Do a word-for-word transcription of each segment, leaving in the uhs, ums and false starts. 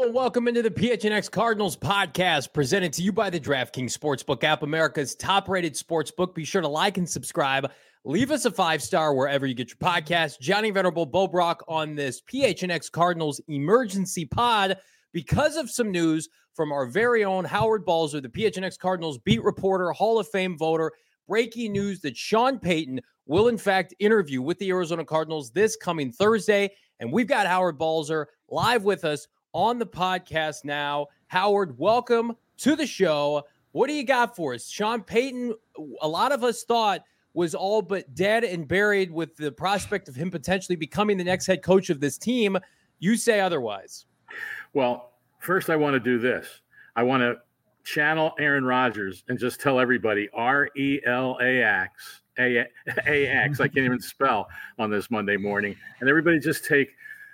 and welcome into the P H N X Cardinals podcast, presented to you by the DraftKings Sportsbook app, America's top-rated sportsbook. Be sure to like and subscribe. Leave us a five-star wherever you get your podcast. Johnny Venerable, Bo Brock on this P H N X Cardinals emergency pod because of some news from our very own Howard Balzer, the P H N X Cardinals beat reporter, Hall of Fame voter. Breaking news that Sean Payton will, in fact, interview with the Arizona Cardinals this coming Thursday. And we've got Howard Balzer live with us on the podcast now. Howard, welcome to the show. What do you got for us? Sean Payton, a lot of us thought was all but dead and buried with the prospect of him potentially becoming the next head coach of this team. You say otherwise. Well, first I want to do this. I want to channel Aaron Rodgers and just tell everybody R E L A X, A X, I can't even spell on this Monday morning. And everybody just take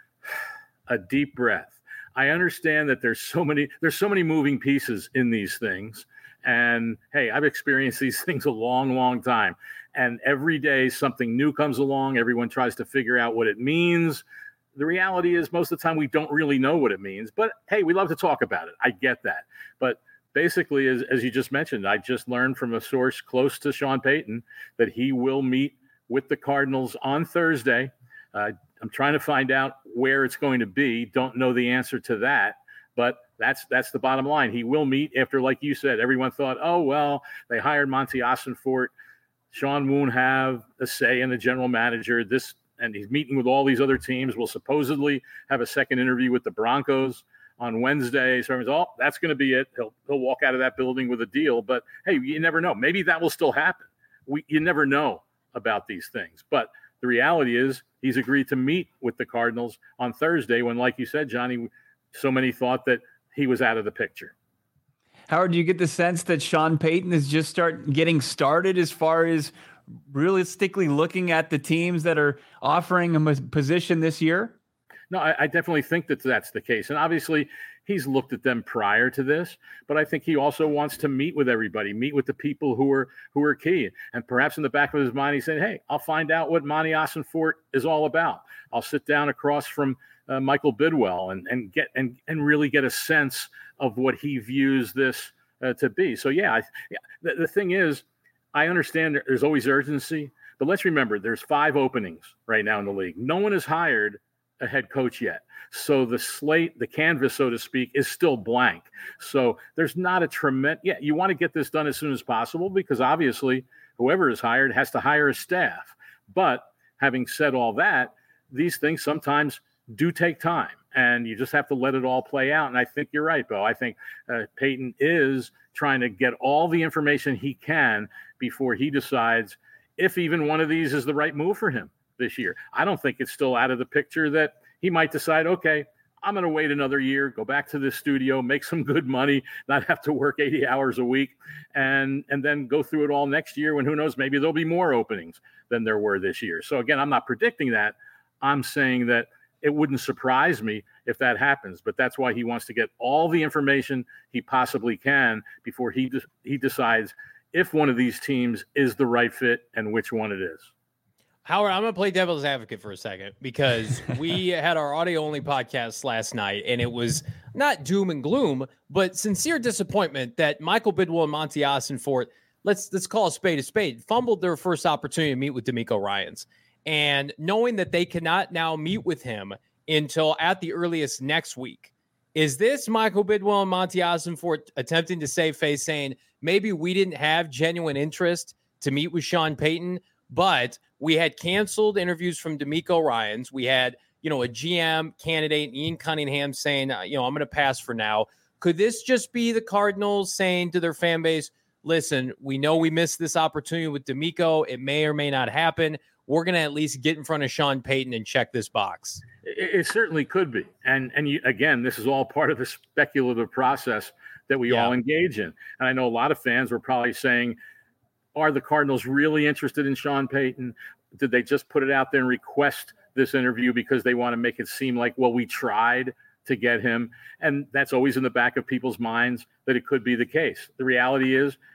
a deep breath. I understand that there's so many, there's so many moving pieces in these things. And hey, I've experienced these things a long, long time. And every day something new comes along. Everyone tries to figure out what it means. The reality is most of the time we don't really know what it means. But hey, we love to talk about it. I get that. But basically, as, as you just mentioned, I just learned from a source close to Sean Payton that he will meet with the Cardinals on Thursday. Uh, I'm trying to find out where it's going to be. Don't know the answer to that, but that's that's the bottom line. He will meet after, like you said, everyone thought, oh, well, they hired Monty Ossenfort. Sean won't have a say in the general manager. This, and he's meeting with all these other teams. We'll supposedly have a second interview with the Broncos on Wednesday. So everyone's, oh, that's going to be it. He'll he'll walk out of that building with a deal. But hey, you never know. Maybe that will still happen. We you never know about these things. But the reality is he's agreed to meet with the Cardinals on Thursday when, like you said, Johnny, so many thought that he was out of the picture. Howard, do you get the sense that Sean Payton is just start getting started as far as realistically looking at the teams that are offering him a position this year? No, I, I definitely think that that's the case. And obviously he's looked at them prior to this, but I think he also wants to meet with everybody, meet with the people who are who are key. And perhaps in the back of his mind, he said, hey, I'll find out what Monty Ossenfort is all about. I'll sit down across from uh, Michael Bidwell and, and get and, and really get a sense of what he views this uh, to be. So, yeah, I, yeah the, the thing is, I understand there's always urgency, but let's remember there's five openings right now in the league. No one has hired a head coach yet. So the slate, the canvas, so to speak, is still blank. So there's not a tremendous, yeah, you want to get this done as soon as possible because obviously whoever is hired has to hire a staff. But having said all that, these things sometimes do take time and you just have to let it all play out. And I think you're right, Bo. I think uh, Payton is trying to get all the information he can before he decides if even one of these is the right move for him this year. I don't think it's still out of the picture that he might decide, okay, I'm going to wait another year, go back to the studio, make some good money, not have to work eighty hours a week, and and then go through it all next year when who knows, maybe there'll be more openings than there were this year. So again, I'm not predicting that. I'm saying that it wouldn't surprise me if that happens, but that's why he wants to get all the information he possibly can before he de- he decides if one of these teams is the right fit and which one it is. Howard, I'm going to play devil's advocate for a second because we had our audio-only podcast last night, and it was not doom and gloom, but sincere disappointment that Michael Bidwell and Monty Ossenfort, let's let's call a spade a spade, fumbled their first opportunity to meet with DeMeco Ryans. And knowing that they cannot now meet with him until at the earliest next week, is this Michael Bidwell and Monty Ossenfort attempting to save face, saying maybe we didn't have genuine interest to meet with Sean Payton, but we had canceled interviews from DeMeco Ryans. We had, you know, a G M candidate, Ian Cunningham, saying, uh, you know, I'm going to pass for now. Could this just be the Cardinals saying to their fan base, listen, we know we missed this opportunity with DeMeco. It may or may not happen. We're going to at least get in front of Sean Payton and check this box. It, it certainly could be. And, and you, again, this is all part of the speculative process that we yeah. all engage in. And I know a lot of fans were probably saying, are the Cardinals really interested in Sean Payton? Did they just put it out there and request this interview because they want to make it seem like, well, we tried to get him? And that's always in the back of people's minds that it could be the case. The reality is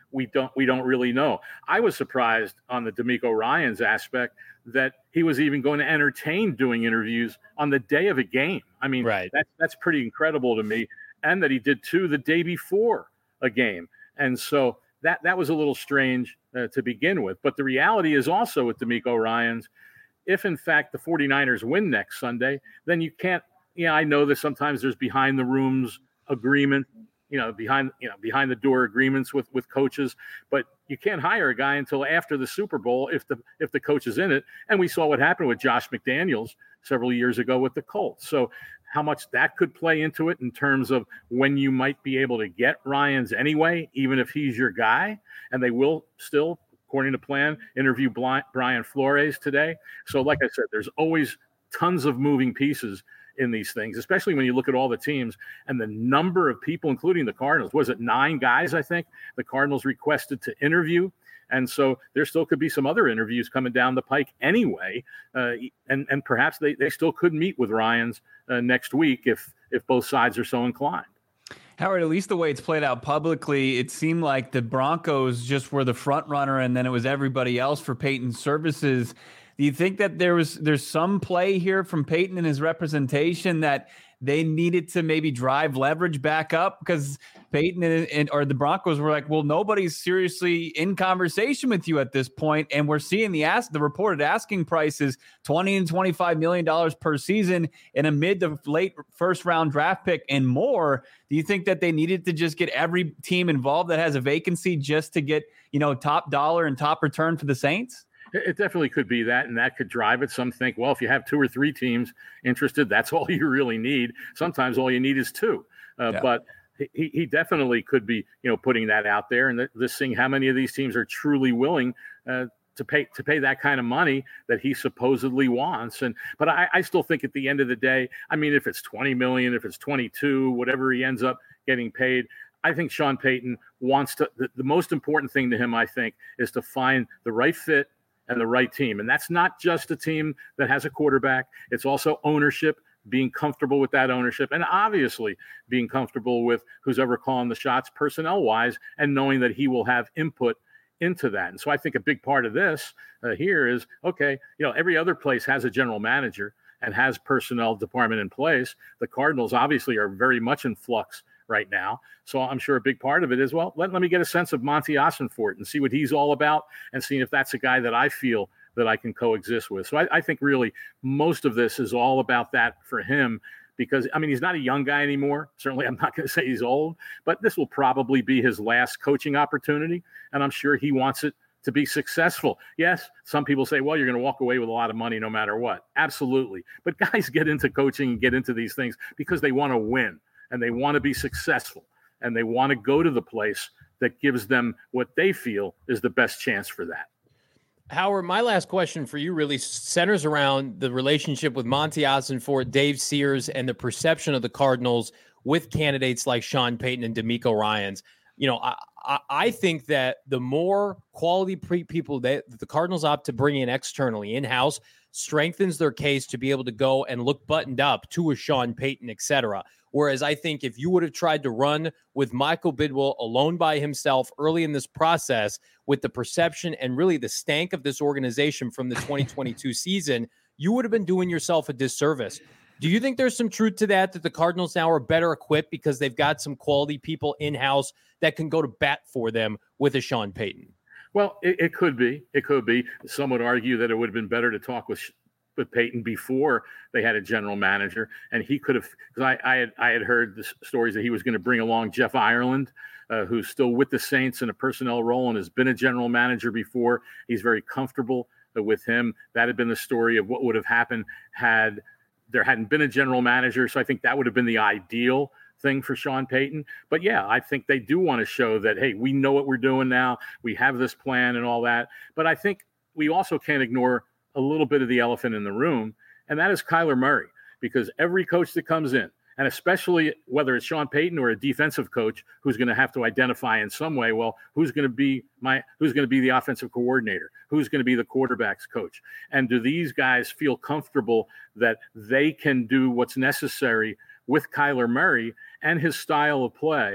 we don't we don't really know. I was surprised on the D'Amico Ryans aspect that he was even going to entertain doing interviews on the day of a game. I mean, right. that's that's pretty incredible to me, and that he did two the day before a game. And so that that was a little strange uh, to begin with. But the reality is also with D'Amico Ryans, if in fact the 49ers win next Sunday, then you can't. Yeah, I know that sometimes there's behind the rooms agreement, you know, behind you know behind the door agreements with with coaches, but you can't hire a guy until after the Super Bowl if the if the coach is in it. And we saw what happened with Josh McDaniels several years ago with the Colts. So how much that could play into it in terms of when you might be able to get Ryans anyway, even if he's your guy, and they will still, according to plan, interview Brian Flores today. So like I said, there's always tons of moving pieces in these things, especially when you look at all the teams and the number of people, including the Cardinals. Was it nine guys, I think, the Cardinals requested to interview? And so there still could be some other interviews coming down the pike anyway. Uh, and, and perhaps they, they still could meet with Ryans uh, next week if if both sides are so inclined. Howard, at least the way it's played out publicly, it seemed like the Broncos just were the front runner and then it was everybody else for Peyton's services. Do you think that there was there's some play here from Peyton and his representation that they needed to maybe drive leverage back up? Because Peyton and, and or the Broncos were like, well, nobody's seriously in conversation with you at this point, and we're seeing the ask the reported asking prices twenty and twenty-five million dollars per season in a mid to late first round draft pick and more. Do you think that they needed to just get every team involved that has a vacancy just to get, you know, top dollar and top return for the Saints? It definitely could be that, and that could drive it. Some think, well, if you have two or three teams interested, that's all you really need. Sometimes all you need is two. Uh, yeah. But he, he definitely could be, you know, putting that out there, and this seeing how many of these teams are truly willing uh, to pay to pay that kind of money that he supposedly wants. And but I, I still think at the end of the day, I mean, if it's twenty million, if it's twenty-two, whatever he ends up getting paid, I think Sean Payton wants to. The, the most important thing to him, I think, is to find the right fit and the right team. And that's not just a team that has a quarterback. It's also ownership, being comfortable with that ownership, and obviously being comfortable with who's ever calling the shots personnel-wise and knowing that he will have input into that. And so I think a big part of this uh, here is, okay, you know, every other place has a general manager and has personnel department in place. The Cardinals obviously are very much in flux right now. So I'm sure a big part of it is, well, let, let me get a sense of Monty Ossenfort and see what he's all about and see if that's a guy that I feel that I can coexist with. So I, I think really most of this is all about that for him because, I mean, he's not a young guy anymore. Certainly I'm not going to say he's old, but this will probably be his last coaching opportunity. And I'm sure he wants it to be successful. Yes, some people say, well, you're going to walk away with a lot of money no matter what. Absolutely. But guys get into coaching and get into these things because they want to win. And they want to be successful, and they want to go to the place that gives them what they feel is the best chance for that. Howard, my last question for you really centers around the relationship with Monty Ossenfort, Dave Sears, and the perception of the Cardinals with candidates like Sean Payton and D'Amico Ryans. You know, I, I, I think that the more quality pre- people that the Cardinals opt to bring in externally, in-house, strengthens their case to be able to go and look buttoned up to a Sean Payton, et cetera. Whereas I think if you would have tried to run with Michael Bidwill alone by himself early in this process with the perception and really the stank of this organization from the twenty twenty-two season, you would have been doing yourself a disservice. Do you think there's some truth to that, that the Cardinals now are better equipped because they've got some quality people in-house that can go to bat for them with a Sean Payton? Well, it, it could be. It could be. Some would argue that it would have been better to talk with with Payton before they had a general manager, and he could have, because I, I had I had heard the stories that he was going to bring along Jeff Ireland, uh, who's still with the Saints in a personnel role and has been a general manager before. He's very comfortable uh, with him. That had been the story of what would have happened had there hadn't been a general manager. So I think that would have been the ideal thing for Sean Payton. But yeah, I think they do want to show that, hey, we know what we're doing now. We have this plan and all that. But I think we also can't ignore a little bit of the elephant in the room, and that is Kyler Murray, because every coach that comes in, and especially whether it's Sean Payton or a defensive coach who's going to have to identify in some way, well, who's going to be my, who's going to be the offensive coordinator? Who's going to be the quarterback's coach? And do these guys feel comfortable that they can do what's necessary with Kyler Murray and his style of play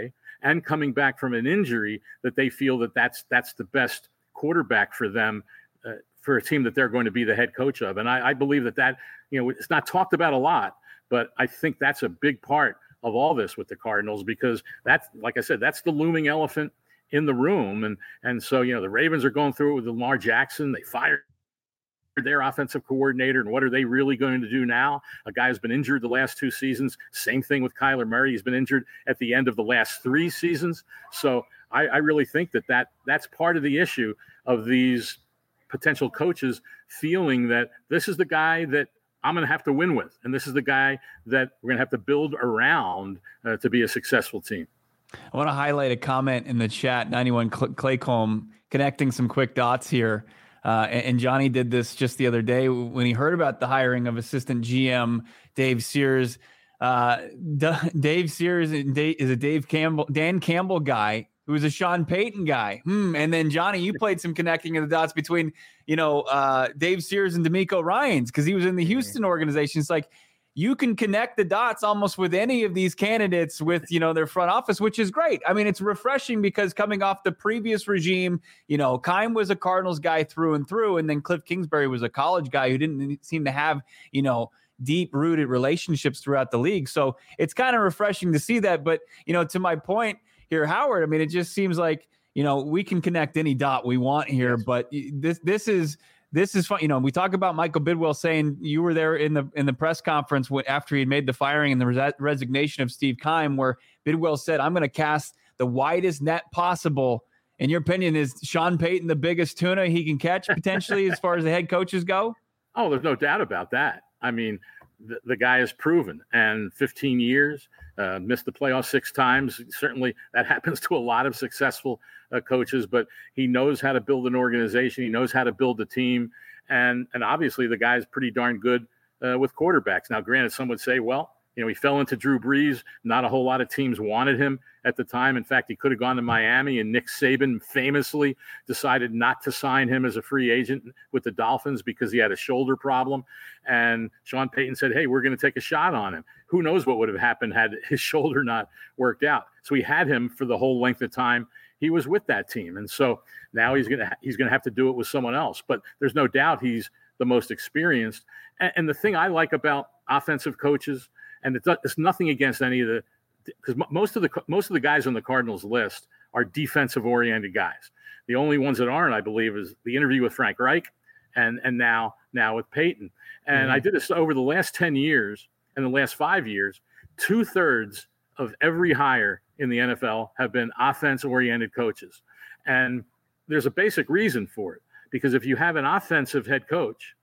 and coming back from an injury, that they feel that that's that's the best quarterback for them, uh, for a team that they're going to be the head coach of. And I, I believe that that, you know, it's not talked about a lot, but I think that's a big part of all this with the Cardinals, because that's, like I said, that's the looming elephant in the room. And and so, you know, the Ravens are going through it with Lamar Jackson. They fired their offensive coordinator, and what are they really going to do now? A guy who's been injured the last two seasons. Same thing with Kyler Murray. He's been injured at the end of the last three seasons. So I, I really think that, that that's part of the issue of these potential coaches feeling that this is the guy that I'm going to have to win with, and this is the guy that we're going to have to build around uh, to be a successful team. I want to highlight a comment in the chat, ninety-one Claycomb, connecting some quick dots here. Uh, and, and Johnny did this just the other day when he heard about the hiring of assistant G M Dave Sears. Uh, D- Dave Sears is a Dave Campbell, Dan Campbell guy who was a Sean Payton guy. Hmm. And then Johnny, you played some connecting of the dots between, you know, uh, Dave Sears and D'Amico Ryans, because he was in the Houston organization. It's like, you can connect the dots almost with any of these candidates with, you know, their front office, which is great. I mean, it's refreshing because coming off the previous regime, you know, Keim was a Cardinals guy through and through. And then Cliff Kingsbury was a college guy who didn't seem to have, you know, deep rooted relationships throughout the league. So it's kind of refreshing to see that. But, you know, to my point here, Howard, I mean, it just seems like, you know, we can connect any dot we want here, but this, this is, This is fun. You know, we talk about Michael Bidwell saying you were there in the in the press conference after he had made the firing and the res- resignation of Steve Keim, where Bidwell said, I'm going to cast the widest net possible. In your opinion, is Sean Payton the biggest tuna he can catch potentially as far as the head coaches go? Oh, there's no doubt about that. I mean, the, the guy is proven, and fifteen years, uh, missed the playoffs six times. Certainly that happens to a lot of successful uh, coaches, but he knows how to build an organization. He knows how to build a team. And, and obviously the guy's pretty darn good uh, with quarterbacks. Now, granted, some would say, well, you know, he fell into Drew Brees. Not a whole lot of teams wanted him at the time. In fact, he could have gone to Miami, and Nick Saban famously decided not to sign him as a free agent with the Dolphins because he had a shoulder problem. And Sean Payton said, hey, we're going to take a shot on him. Who knows what would have happened had his shoulder not worked out. So he had him for the whole length of time he was with that team. And so now he's going to he's going to have to do it with someone else. But there's no doubt he's the most experienced. And, and the thing I like about offensive coaches, and it's, it's nothing against any of the, because most of the most of the guys on the Cardinals list are defensive-oriented guys. The only ones that aren't, I believe, is the interview with Frank Reich, and and now now with Payton. And mm-hmm. I did this over the last ten years and the last five years. Two thirds of every hire in the N F L have been offense-oriented coaches, and there's a basic reason for it. Because if you have an offensive head coach,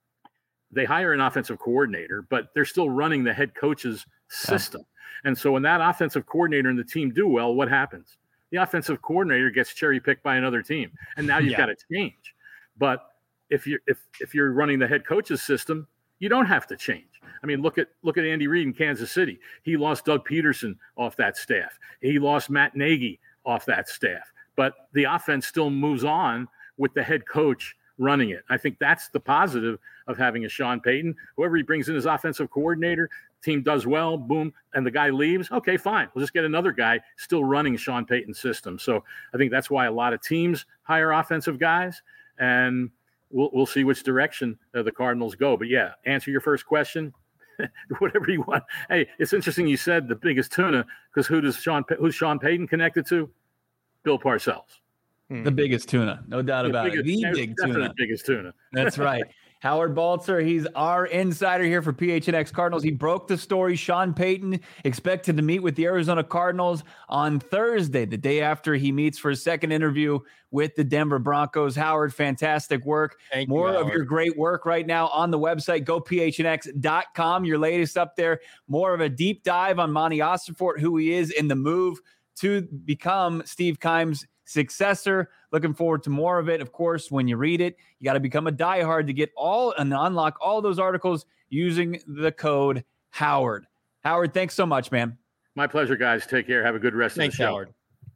they hire an offensive coordinator, but they're still running the head coach's system. Yeah. And so when that offensive coordinator and the team do well, what happens? The offensive coordinator gets cherry-picked by another team, and now you've yeah. got to change. But if you're if if you're running the head coach's system, you don't have to change. I mean, look at look at Andy Reid in Kansas City. He lost Doug Peterson off that staff. He lost Matt Nagy off that staff. But the offense still moves on with the head coach running it. I think that's the positive of having a Sean Payton. Whoever he brings in as offensive coordinator, team does well, boom, and the guy leaves. Okay, fine. We'll just get another guy still running Sean Payton's system. So I think that's why a lot of teams hire offensive guys, and we'll we'll see which direction uh, the Cardinals go. But yeah, answer your first question. Whatever you want. Hey, it's interesting you said the biggest tuna, because who does Sean who's Sean Payton connected to? Bill Parcells. The biggest tuna, no doubt about biggest, it. The big tuna. biggest tuna. That's right. Howard Balzer, he's our insider here for P H N X Cardinals. He broke the story. Sean Payton expected to meet with the Arizona Cardinals on Thursday, the day after he meets for his second interview with the Denver Broncos. Howard, fantastic work. Thank More you, of your great work right now on the website, go P H N X dot com. Your latest up there. More of a deep dive on Monty Ossenfort, who he is in the move to become Steve Keim's successor. Looking forward to more of it. Of course, when you read it, you got to become a diehard to get all and unlock all those articles using the code Howard. Howard, thanks so much, man. My pleasure, guys. Take care. Have a good rest thanks, of the show. Howard.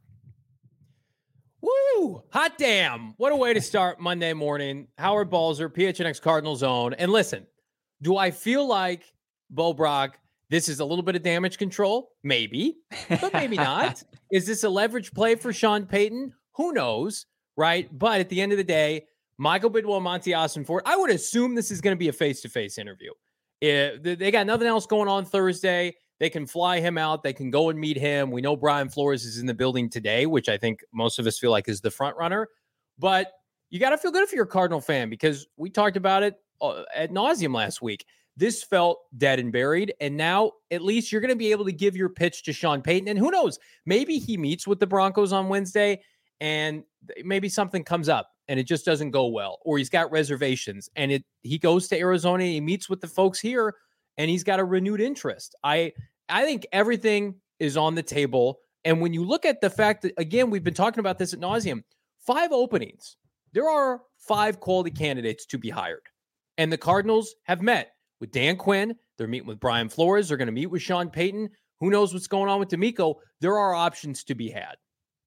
Woo! Hot damn. What a way to start Monday morning. Howard Balzer, P H N X Cardinals own. And listen, do I feel like Bo Brock This is a little bit of damage control, maybe, but maybe not. Is this a leverage play for Sean Payton? Who knows, right? But at the end of the day, Michael Bidwill and Monty Ossenfort, I would assume this is going to be a face-to-face interview. If they got nothing else going on Thursday, they can fly him out. They can go and meet him. We know Brian Flores is in the building today, which I think most of us feel like is the front runner. But you got to feel good if you're a Cardinal fan, because we talked about it ad nauseum last week. This felt dead and buried, and now at least you're going to be able to give your pitch to Sean Payton. And who knows, maybe he meets with the Broncos on Wednesday, and maybe something comes up and it just doesn't go well, or he's got reservations, and it he goes to Arizona, he meets with the folks here, and he's got a renewed interest. I I think everything is on the table. And when you look at the fact that, again, we've been talking about this ad nauseum, five openings, there are five quality candidates to be hired. And the Cardinals have met with Dan Quinn. They're meeting with Brian Flores. They're going to meet with Sean Payton. Who knows what's going on with DeMeco? There are options to be had.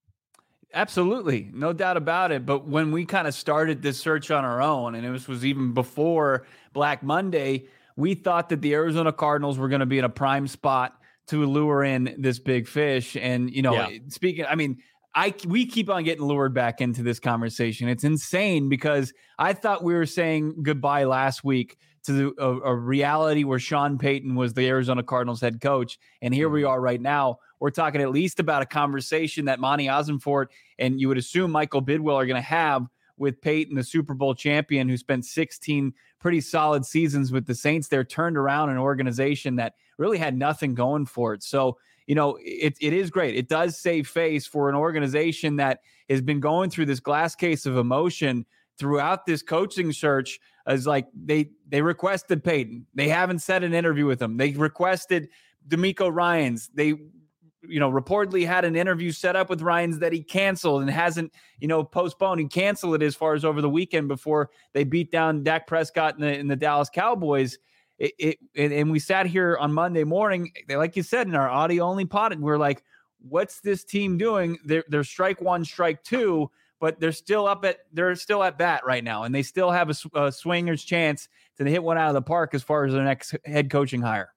Absolutely. No doubt about it. But when we kind of started this search on our own, and it was, was even before Black Monday, we thought that the Arizona Cardinals were going to be in a prime spot to lure in this big fish. And, you know, yeah. speaking, I mean, I we keep on getting lured back into this conversation. It's insane because I thought we were saying goodbye last week to the, a, a reality where Sean Payton was the Arizona Cardinals head coach. And here we are right now. We're talking at least about a conversation that Monty Ossenfort and you would assume Michael Bidwill are going to have with Payton, the Super Bowl champion who spent sixteen pretty solid seasons with the Saints. They're turned around an organization that really had nothing going for it. So, you know, it it is great. It does save face for an organization that has been going through this glass case of emotion throughout this coaching search. As like they they requested Payton. They haven't set an interview with him. They requested DeMeco Ryans. They, you know, reportedly had an interview set up with Ryans that he canceled and hasn't, you know, postponed. He canceled it as far as over the weekend before they beat down Dak Prescott and the, in the Dallas Cowboys. It, it and, and we sat here on Monday morning, like you said, in our audio only pod, and we're like, what's this team doing? They're, they're strike one, strike two, but they're still up at, they're still at bat right now. And they still have a, a swinger's chance to hit one out of the park as far as their next head coaching hire.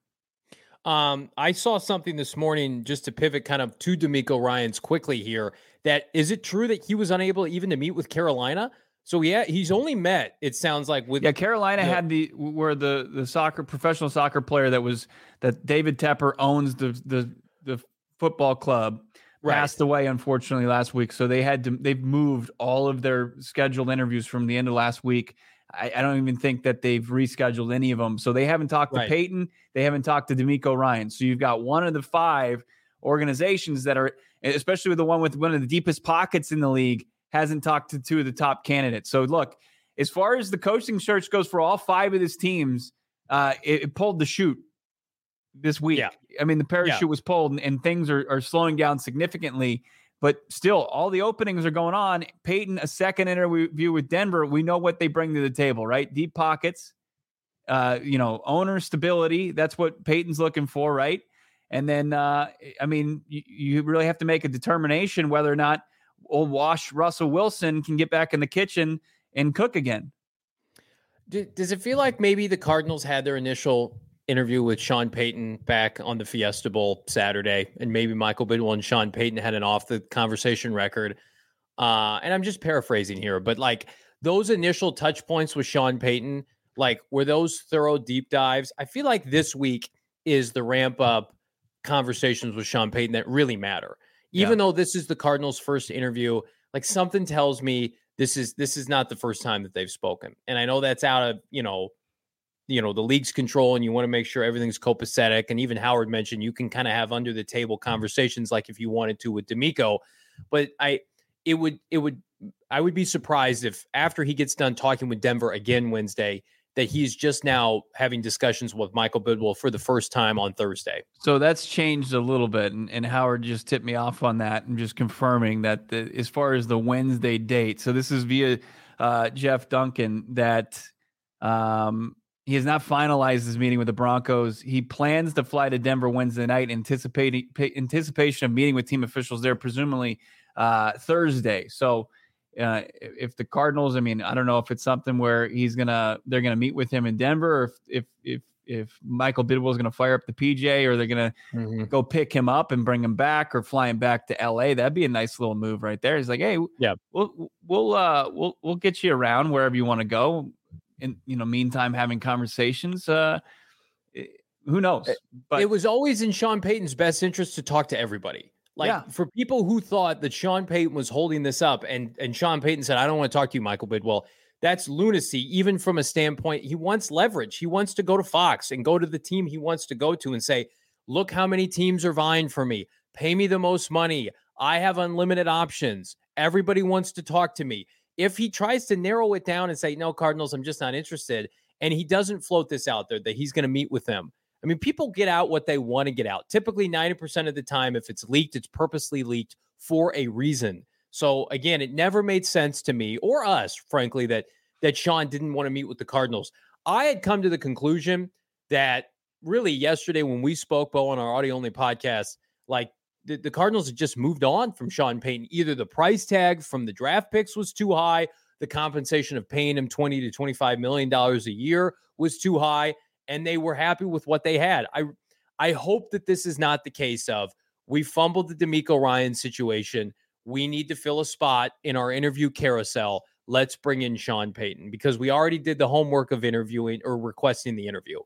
Um, I saw something this morning, just to pivot kind of to DeMeco Ryans quickly here, that is it true that he was unable even to meet with Carolina? So yeah, he's only met, it sounds like, with yeah. Carolina the, had the where the the soccer professional soccer player that was that David Tepper owns the the the football club right. passed away unfortunately last week. So they had to they've moved all of their scheduled interviews from the end of last week. I, I don't even think that they've rescheduled any of them. So they haven't talked to right. Payton. They haven't talked to DeMeco Ryans. So you've got one of the five organizations that are, especially with the one with one of the deepest pockets in the league, hasn't talked to two of the top candidates. So look, as far as the coaching search goes for all five of these teams, uh, it, it pulled the chute this week. Yeah. I mean, the parachute yeah. was pulled and, and things are, are slowing down significantly. But still, all the openings are going on. Payton, a second interview with Denver. We know what they bring to the table, right? Deep pockets, uh, you know, owner stability. That's what Payton's looking for, right? And then, uh, I mean, you, you really have to make a determination whether or not old wash Russell Wilson can get back in the kitchen and cook again. Does it feel like maybe the Cardinals had their initial interview with Sean Payton back on the Fiesta Bowl Saturday, and maybe Michael Bidwill and Sean Payton had an off the conversation record? Uh, and I'm just paraphrasing here, but like those initial touch points with Sean Payton, like were those thorough deep dives? I feel like this week is the ramp up conversations with Sean Payton that really matter. Even yeah. though this is the Cardinals' first interview, like something tells me this is this is not the first time that they've spoken. And I know that's out of, you know, you know, the league's control, and you want to make sure everything's copacetic. And even Howard mentioned you can kind of have under the table conversations like if you wanted to with DeMeco. But I it would it would I would be surprised if after he gets done talking with Denver again Wednesday, that he's just now having discussions with Michael Bidwill for the first time on Thursday. So that's changed a little bit. And, and Howard just tipped me off on that and just confirming that the, as far as the Wednesday date. So this is via uh, Jeff Duncan that um, he has not finalized his meeting with the Broncos. He plans to fly to Denver Wednesday night, anticipating anticipation of meeting with team officials there, presumably uh, Thursday. So Uh, if the Cardinals, I mean, I don't know if it's something where he's gonna, they're gonna meet with him in Denver, or if if if if Michael Bidwill is going to fire up the P J, or they're going to mm-hmm. go pick him up and bring him back, or fly him back to L A. That'd be a nice little move right there. He's like, hey, yeah, we'll we'll uh we'll we'll get you around wherever you want to go. In you know, meantime, having conversations. Uh, who knows? But it was always in Sean Payton's best interest to talk to everybody. Like yeah. for people who thought that Sean Payton was holding this up, and and Sean Payton said, I don't want to talk to you, Michael Bidwill. That's lunacy, even from a standpoint. He wants leverage. He wants to go to Fox and go to the team he wants to go to and say, look how many teams are vying for me. Pay me the most money. I have unlimited options. Everybody wants to talk to me. If he tries to narrow it down and say, no, Cardinals, I'm just not interested, and he doesn't float this out there that he's going to meet with them. I mean, people get out what they want to get out. Typically, ninety percent of the time, if it's leaked, it's purposely leaked for a reason. So, again, it never made sense to me or us, frankly, that that Sean didn't want to meet with the Cardinals. I had come to the conclusion that really yesterday when we spoke, Bo, on our audio-only podcast, like the, the Cardinals had just moved on from Sean Payton. Either the price tag from the draft picks was too high, the compensation of paying him twenty to twenty-five million dollars a year was too high, and they were happy with what they had. I, I hope that this is not the case of we fumbled the DeMeco Ryans situation. We need to fill a spot in our interview carousel. Let's bring in Sean Payton, because we already did the homework of interviewing or requesting the interview.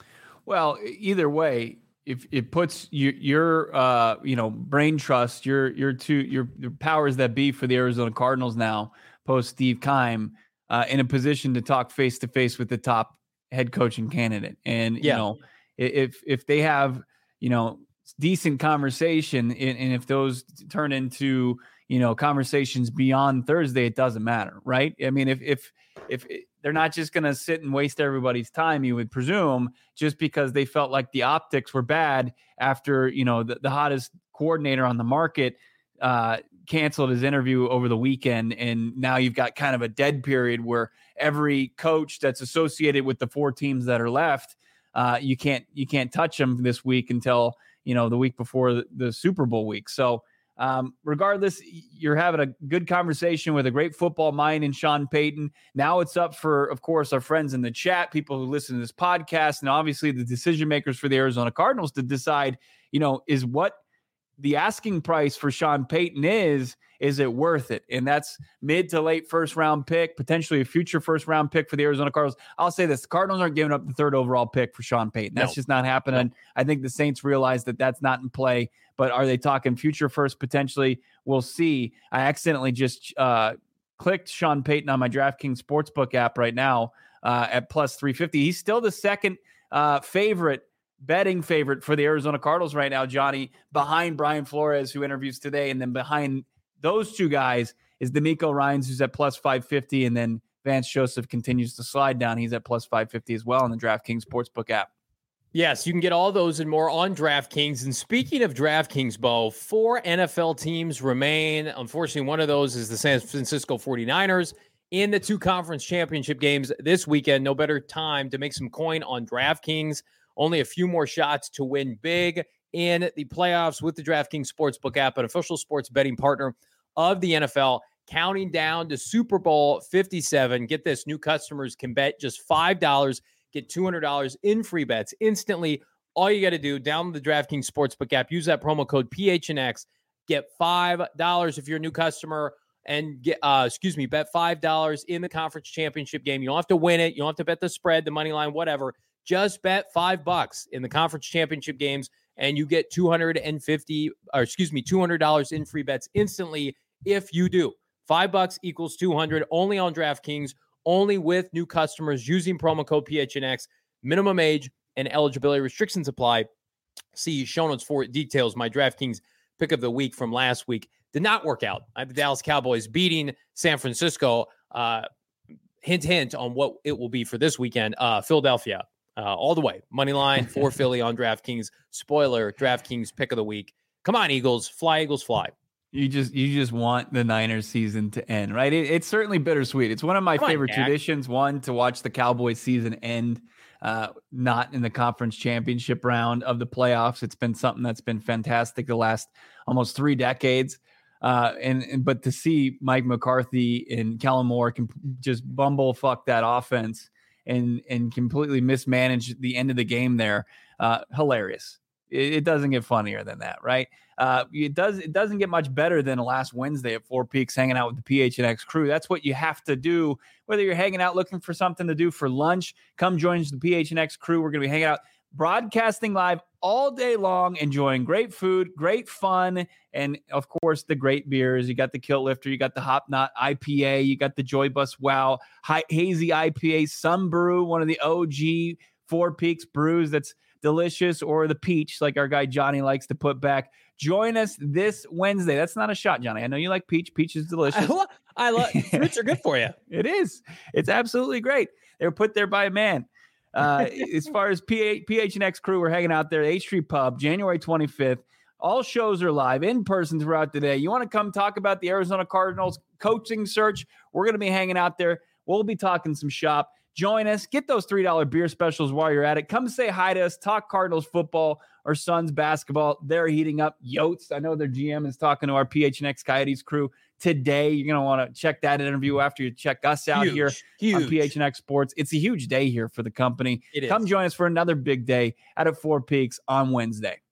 Well, either way, if it puts you, your, uh, you know, brain trust, your, your two, your, your powers that be for the Arizona Cardinals now, post Steve Keim, uh, in a position to talk face to face with the top head coaching candidate. And, yeah. you know, if, if they have, you know, decent conversation, and, and if those turn into, you know, conversations beyond Thursday, it doesn't matter, right? I mean, if if if they're not just going to sit and waste everybody's time, you would presume, just because they felt like the optics were bad after, you know, the, the hottest coordinator on the market uh, canceled his interview over the weekend, and now you've got kind of a dead period where every coach that's associated with the four teams that are left, uh, you can't you can't touch them this week until, you know, the week before the, the Super Bowl week. So um, regardless, you're having a good conversation with a great football mind in Sean Payton. Now it's up for, of course, our friends in the chat, people who listen to this podcast, and obviously the decision makers for the Arizona Cardinals to decide, you know, is what the asking price for Sean Payton is, is it worth it? And that's mid to late first round pick, potentially a future first round pick for the Arizona Cardinals. I'll say this: the Cardinals aren't giving up the third overall pick for Sean Payton. That's no. just not happening. No. I think the Saints realize that that's not in play, but are they talking future first potentially? We'll see. I accidentally just uh, clicked Sean Payton on my DraftKings Sportsbook app right now uh, at plus three fifty. He's still the second uh, favorite betting favorite for the Arizona Cardinals right now, Johnny, behind Brian Flores, who interviews today. And then behind those two guys is DeMeco Ryans, who's at plus five fifty. And then Vance Joseph continues to slide down. He's at plus five fifty as well on the DraftKings Sportsbook app. Yes, you can get all those and more on DraftKings. And speaking of DraftKings, Bo, four N F L teams remain. Unfortunately, one of those is the San Francisco forty-niners in the two conference championship games this weekend. No better time to make some coin on DraftKings. Only a few more shots to win big in the playoffs with the DraftKings Sportsbook app, an official sports betting partner of the N F L. Counting down to Super Bowl fifty-seven. Get this, new customers can bet just five dollars, get two hundred dollars in free bets instantly. All you got to do, download the DraftKings Sportsbook app, use that promo code P H N X, get five dollars if you're a new customer, and get, uh, excuse me, bet five dollars in the conference championship game. You don't have to win it. You don't have to bet the spread, the money line, whatever. Just bet five bucks in the conference championship games, and you get two hundred fifty, or excuse me, two hundred dollars in free bets instantly if you do. Five bucks equals two hundred, only on DraftKings, only with new customers using promo code P H N X. Minimum age and eligibility restrictions apply. See show notes for details. My DraftKings pick of the week from last week did not work out. I have the Dallas Cowboys beating San Francisco. Uh, hint, hint on what it will be for this weekend. Uh, Philadelphia. Uh, all the way. Money line for Philly on DraftKings. Spoiler, DraftKings pick of the week. Come on, Eagles. Fly, Eagles, fly. You just you just want the Niners season to end, right? It, it's certainly bittersweet. It's one of my Come favorite on, traditions, one, to watch the Cowboys season end, uh, not in the conference championship round of the playoffs. It's been something that's been fantastic the last almost three decades. Uh, and, and but to see Mike McCarthy and Kellen Moore can just bumble fuck that offense and and completely mismanage the end of the game there. Uh, hilarious. It, it doesn't get funnier than that, right? Uh, it does. It doesn't get much better than last Wednesday at Four Peaks, hanging out with the P H N X crew. That's what you have to do. Whether you're hanging out looking for something to do for lunch, come join the P H N X crew. We're going to be hanging out, broadcasting live all day long, enjoying great food, great fun, and of course the great beers. You got the Kilt Lifter, you got the Hop Knot I P A, you got the Joy Bus Wow High, Hazy I P A, Sun Brew, one of the O G Four Peaks brews that's delicious, or the peach, like our guy Johnny likes to put back. Join us this Wednesday. That's not a shot, Johnny. I know you like peach. Peach is delicious. I, lo- I love fruits are good for you. It is. It's absolutely great. They were put there by a man. Uh, as far as P H N X crew, we're hanging out there at H Street Pub, January twenty-fifth. All shows are live in person throughout the day. You want to come talk about the Arizona Cardinals coaching search? We're going to be hanging out there. We'll be talking some shop. Join us. Get those three dollar beer specials while you're at it. Come say hi to us. Talk Cardinals football or Suns basketball. They're heating up. Yotes, I know their G M is talking to our P H N X Coyotes crew today. You're going to want to check that interview after you check us out huge, here huge. on P H N X Sports. It's a huge day here for the company. It Come is. join us for another big day out at Four Peaks on Wednesday.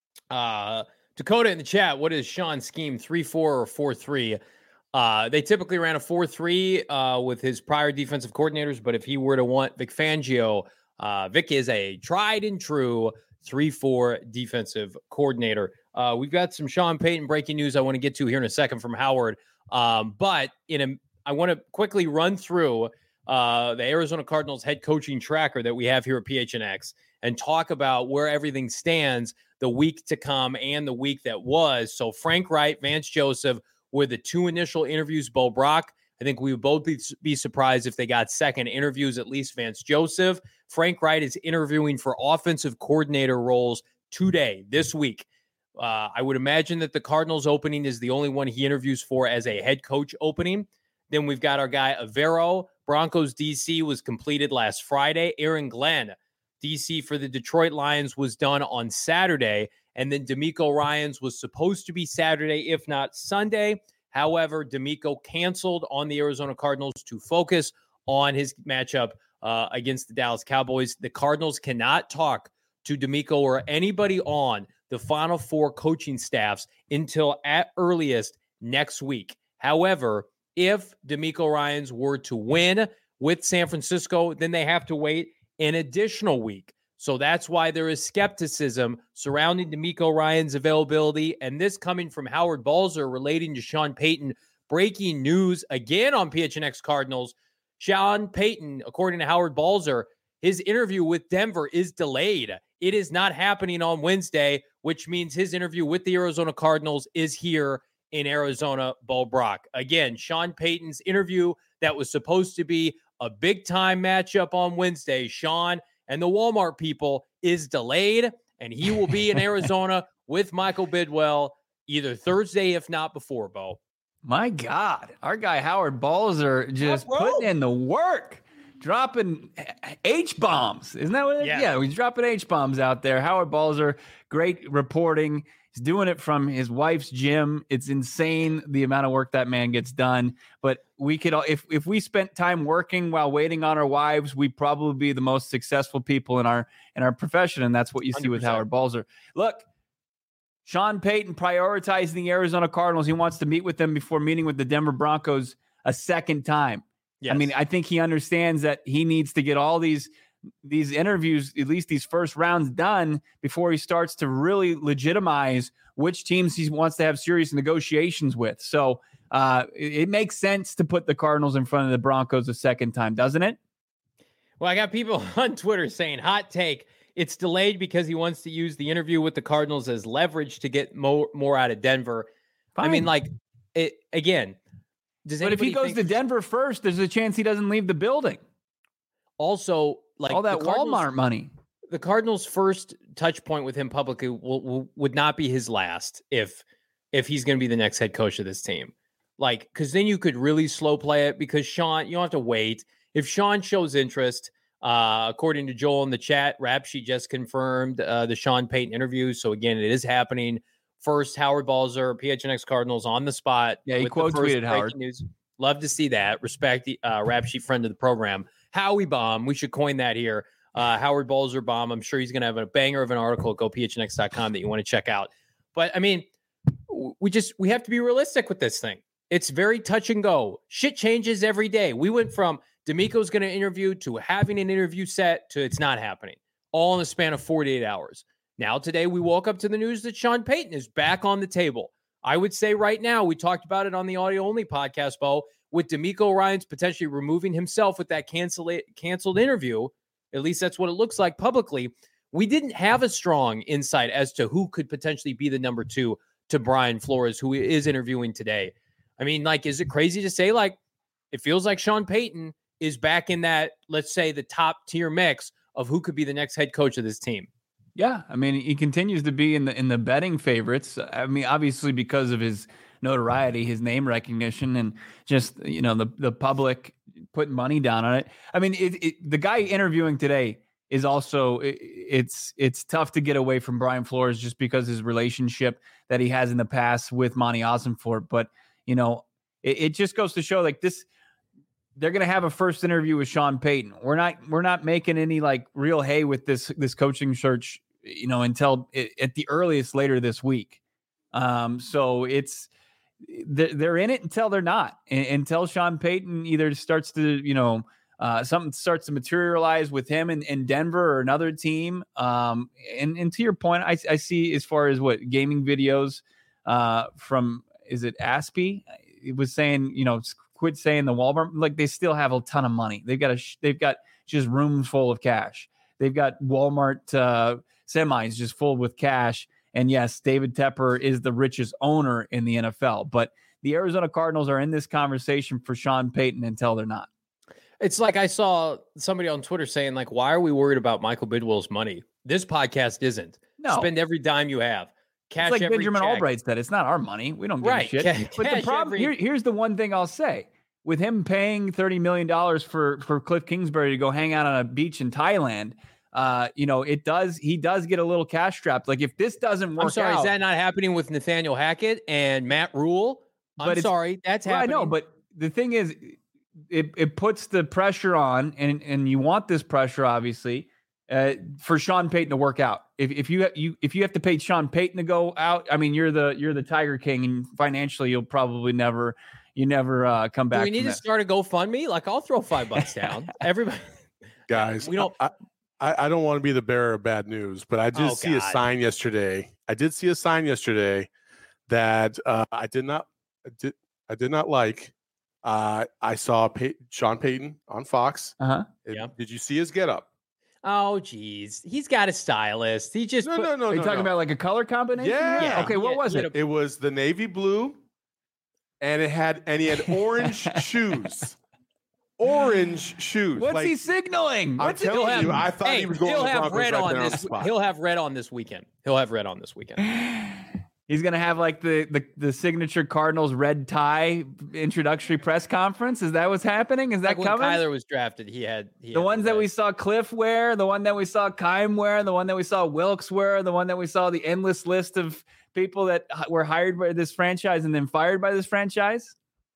Uh, Dakota in the chat, what is Sean's scheme, three four or four three? Uh, they typically ran a four three uh, with his prior defensive coordinators, but if he were to want Vic Fangio, uh, Vic is a tried and true three four defensive coordinator. Uh, we've got some Sean Payton breaking news I want to get to here in a second from Howard. Um, but in a, I want to quickly run through uh, the Arizona Cardinals head coaching tracker that we have here at P H N X and talk about where everything stands the week to come and the week that was. So Frank Wright, Vance Joseph were the two initial interviews. Bo Brock, I think we would both be, be surprised if they got second interviews, at least Vance Joseph. Frank Wright is interviewing for offensive coordinator roles today, this week. Uh, I would imagine that the Cardinals opening is the only one he interviews for as a head coach opening. Then we've got our guy Avero. Broncos D C was completed last Friday. Aaron Glenn, D C for the Detroit Lions, was done on Saturday. And then D'Amico Ryans was supposed to be Saturday, if not Sunday. However, D'Amico canceled on the Arizona Cardinals to focus on his matchup uh, against the Dallas Cowboys. The Cardinals cannot talk to D'Amico or anybody on the Final Four coaching staffs until at earliest next week. However, if D'Amico Ryans were to win with San Francisco, then they have to wait an additional week. So that's why there is skepticism surrounding D'Amico Ryans' availability. And this coming from Howard Balzer relating to Sean Payton. Breaking news again on P H N X Cardinals. Sean Payton, according to Howard Balzer, his interview with Denver is delayed. It is not happening on Wednesday, which means his interview with the Arizona Cardinals is here in Arizona. Bo Brock. Again, Sean Payton's interview that was supposed to be a big-time matchup on Wednesday, Sean and the Walmart people, is delayed, and he will be in Arizona with Michael Bidwell either Thursday, if not before, Bo. My God, our guy Howard Balzer just yeah, putting in the work, dropping H-bombs. Isn't that what it is? Yeah. Yeah, he's dropping H-bombs out there. Howard Balzer, great reporting. He's doing it from his wife's gym. It's insane the amount of work that man gets done. But we could, if if we spent time working while waiting on our wives, we'd probably be the most successful people in our in our profession. And that's what you see with Howard Balzer. Look, Sean Payton prioritizing the Arizona Cardinals. He wants to meet with them before meeting with the Denver Broncos a second time. Yes. I mean, I think he understands that he needs to get all these these interviews, at least these first rounds, done before he starts to really legitimize which teams he wants to have serious negotiations with. So uh, it, it makes sense to put the Cardinals in front of the Broncos a second time, doesn't it? Well, I got people on Twitter saying, hot take, it's delayed because he wants to use the interview with the Cardinals as leverage to get more, more out of Denver. Fine. I mean, like, it, again, does but if he goes think- to Denver first, there's a chance he doesn't leave the building. Also, like all that the Cardinals, Walmart money. The Cardinals' first touch point with him publicly will, will, would not be his last if if he's going to be the next head coach of this team. Like, because then you could really slow play it because Sean, you don't have to wait. If Sean shows interest, uh, according to Joel in the chat, Rap Sheet just confirmed uh, the Sean Payton interview. So again, it is happening. First, Howard Balzer, P H N X Cardinals on the spot. Yeah, he quote tweeted Howard. News. Love to see that. Respect the uh, Rap Sheet friend of the program. Howie Bomb. We should coin that here. Uh, Howard Balzer Bomb. I'm sure he's going to have a banger of an article at go p h n x dot com that you want to check out. But I mean, we just, we have to be realistic with this thing. It's very touch and go. Shit changes every day. We went from D'Amico's going to interview to having an interview set to it's not happening, all in the span of forty-eight hours. Now, today, we woke up to the news that Sean Payton is back on the table. I would say right now, we talked about it on the audio-only podcast, Bo, with D'Amico Ryans potentially removing himself with that cancel- canceled interview. At least that's what it looks like publicly. We didn't have a strong insight as to who could potentially be the number two to Brian Flores, who is interviewing today. I mean, like, is it crazy to say, like, it feels like Sean Payton is back in that, let's say, the top tier mix of who could be the next head coach of this team? Yeah, I mean, he continues to be in the in the betting favorites. I mean, obviously because of his notoriety, his name recognition, and just, you know, the the public putting money down on it. I mean, it, it, the guy interviewing today is also it, it's it's tough to get away from Brian Flores just because his relationship that he has in the past with Monty Ossenfort. But you know, it, it just goes to show, like, this. They're going to have a first interview with Sean Payton. We're not, we're not making any like real hay with this, this coaching search, you know, until it, at the earliest later this week. Um, so it's, they're, they're in it until they're not, and, until Sean Payton either starts to, you know, uh, something starts to materialize with him in, in Denver or another team. Um, and, and to your point, I, I see as far as what gaming videos uh, from, is it Aspie? It was saying, you know, quit saying the Walmart, like, they still have a ton of money. They've got a, they've got just rooms full of cash. They've got Walmart uh, semis just full with cash. And yes, David Tepper is the richest owner in the N F L, but the Arizona Cardinals are in this conversation for Sean Payton until they're not. It's like I saw somebody on Twitter saying, like, why are we worried about Michael Bidwill's money? This podcast isn't. No. Spend every dime you have. Cash it's like every Benjamin check. Albright said, it's not our money. We don't give right. a shit. Ca- but the problem every... here, here's the one thing I'll say. With him paying thirty million dollars for, for Cliff Kingsbury to go hang out on a beach in Thailand, uh, you know, it does, he does get a little cash strapped. Like, if this doesn't work I'm sorry, out, is that not happening with Nathaniel Hackett and Matt Rule? I'm sorry, that's well, happening. I know, but the thing is, it, it puts the pressure on, and, and you want this pressure, obviously, uh, for Sean Payton to work out. If if you you if you have to pay Sean Payton to go out, I mean, you're the you're the Tiger King, and financially, you'll probably never you never uh, come back. Do we need to that. start a GoFundMe? Like, I'll throw five bucks down. Everybody, guys, we don't. I, I, I don't want to be the bearer of bad news, but I did Oh, see God. a sign yesterday. I did see a sign yesterday that uh, I did not I did I did not like. Uh, I saw Pay- Sean Payton on Fox. Uh-huh. Yeah. Did you see his getup? Oh, geez, he's got a stylist. He just No, put, no, no. Are you no, talking no. about like a color combination? Yeah. Yeah, Okay, what yeah, was he it? had a- It was the navy blue, and it had and he had orange shoes. Orange shoes. What's like, he signaling? I'm What's he telling doing? you, I thought hey, he was going he'll to the have Broncos red right on there on the this. spot. He'll have red on this weekend. He'll have red on this weekend. He's gonna have like the, the the signature Cardinals red tie introductory press conference. Is that what's happening? Is that Like when coming? Kyler was drafted, he had he the had ones that red. we saw Cliff wear, the one that we saw Kime wear, the one that we saw Wilkes wear, the one that we saw the endless list of people that h- were hired by this franchise and then fired by this franchise.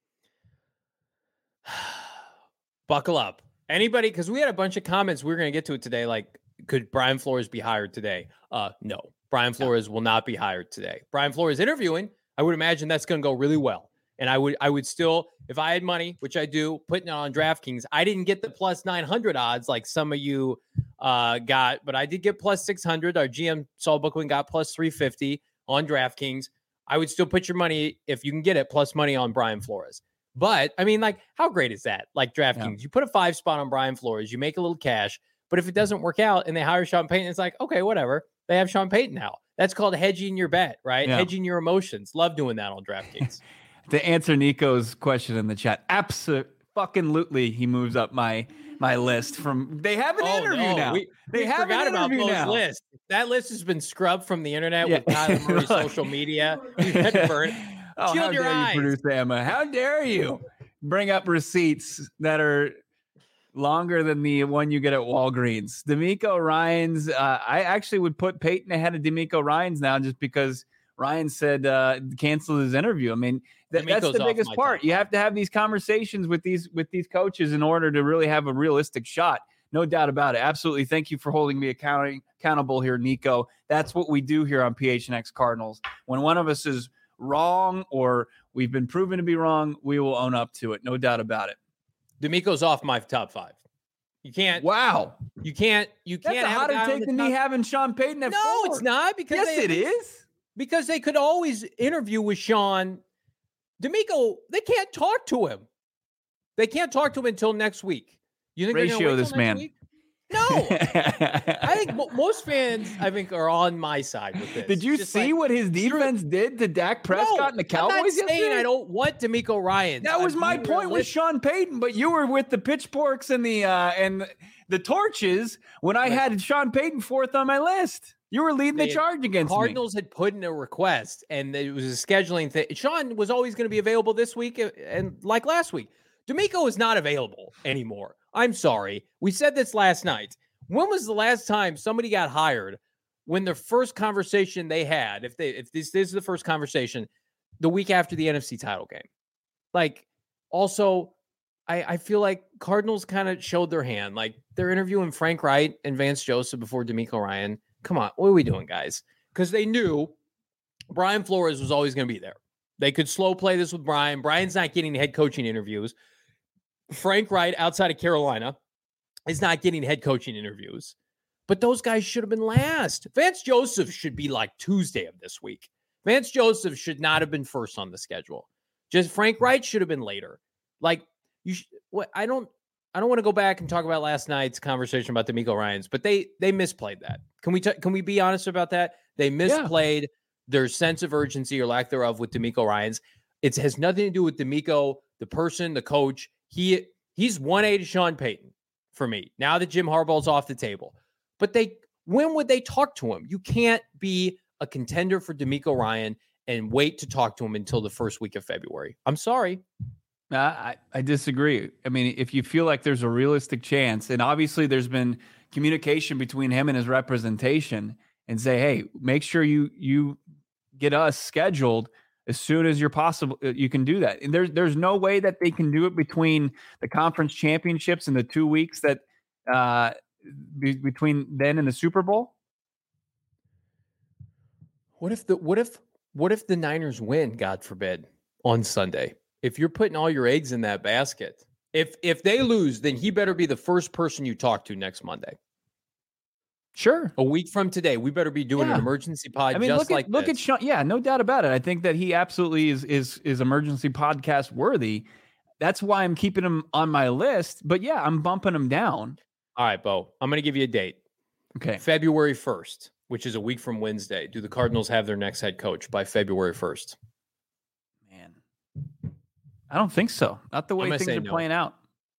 Buckle up. Anybody, because we had a bunch of comments. We were going to get to it today. Like, could Brian Flores be hired today? Uh, no. Brian Flores will not be hired today. Brian Flores interviewing, I would imagine that's going to go really well. And I would I would still, if I had money, which I do, putting it on DraftKings, I didn't get the plus nine hundred odds like some of you uh, got, but I did get plus six hundred. Our G M, Saul Bookman, got plus three fifty on DraftKings. I would still put your money, if you can get it, plus money on Brian Flores. But, I mean, like, how great is that? Like, DraftKings, yeah. You put a five spot on Brian Flores, you make a little cash, but if it doesn't work out and they hire Sean Payton, it's like, okay, whatever. They have Sean Payton now. That's called hedging your bet, right? Yeah. Hedging your emotions. Love doing that on DraftKings. To answer Nico's question in the chat, absolutely, he moves up my my list from. They have an oh, interview no. now. We, they we have forgot an about interview Bo's now. list. That list has been scrubbed from the internet Yeah. with Kyler Murray's social media. We've had to burn. Oh, Shield how your dare eyes. you, producer Emma? How dare you bring up receipts that are longer than the one you get at Walgreens? D'Amico Ryans, uh, I actually would put Peyton ahead of D'Amico Ryans now just because Ryan said uh, canceled his interview. I mean, That, that's the biggest part. You have to have these conversations with these with these coaches in order to really have a realistic shot. No doubt about it. Absolutely. Thank you for holding me accounting, accountable here, Nico. That's what we do here on P H N X Cardinals. When one of us is wrong or we've been proven to be wrong, we will own up to it. No doubt about it. DeMeco's off my top five. You can't. Wow. You can't. You can't. That's a hotter take than me having Sean Payton at no, four. No, it's not. Because yes, they, it is. Because they could always interview with Sean. DeMeco, they can't talk to him. They can't talk to him until next week. You think ratio this man? Week? No. I think mo- most fans, I think, are on my side with this. Did you Just see like, what his defense true. did to Dak Prescott no, and the Cowboys? I'm not saying yesterday? I don't want DeMeco Ryan. That was I'm my point realistic. with Sean Payton, but you were with the pitchforks and the uh, and the torches when I had Sean Payton fourth on my list. You were leading They the charge against Cardinals me. had put in a request, and it was a scheduling thing. Sean was always going to be available this week, and like last week, DeMeco is not available anymore. I'm sorry. We said this last night. When was the last time somebody got hired when the first conversation they had, if they if this, this is the first conversation, the week after the N F C title game? Like, also, I, I feel like Cardinals kind of showed their hand. Like, they're interviewing Frank Wright and Vance Joseph before DeMeco Ryan. Come on, what are we doing, guys? Because they knew Brian Flores was always going to be there. They could slow play this with Brian. Brian's not getting head coaching interviews. Frank Wright, outside of Carolina, is not getting head coaching interviews. But those guys should have been last. Vance Joseph should be like Tuesday of this week. Vance Joseph should not have been first on the schedule. Just Frank Wright should have been later. Like, you, sh- what? I don't. I don't want to go back and talk about last night's conversation about DeMeco Ryans, but they they misplayed that. Can we t- can we be honest about that? They misplayed yeah. their sense of urgency or lack thereof with DeMeco Ryans. It has nothing to do with DeMeco, the person, the coach. He he's one A to Sean Payton for me. Now that Jim Harbaugh's off the table, but they when would they talk to him? You can't be a contender for DeMeco Ryan and wait to talk to him until the first week of February. I'm sorry. Uh, I, I disagree. I mean, if you feel like there's a realistic chance, and obviously there's been communication between him and his representation, and say, hey, make sure you you get us scheduled as soon as you're possible. You can do that. And there's there's no way that they can do it between the conference championships and the two weeks that uh, be, between then and the Super Bowl. What if the what if what if the Niners win, God forbid, on Sunday? If you're putting all your eggs in that basket, if if they lose, then he better be the first person you talk to next Monday. Sure. A week from today, we better be doing yeah. an emergency pod I mean, just look at, like look this. at Sean. Yeah, no doubt about it. I think that he absolutely is is is emergency podcast worthy. That's why I'm keeping him on my list. But yeah, I'm bumping him down. All right, Bo, I'm going to give you a date. Okay. February first, which is a week from Wednesday. Do the Cardinals have their next head coach by February first? Man, I don't think so. Not the way things are no. playing out.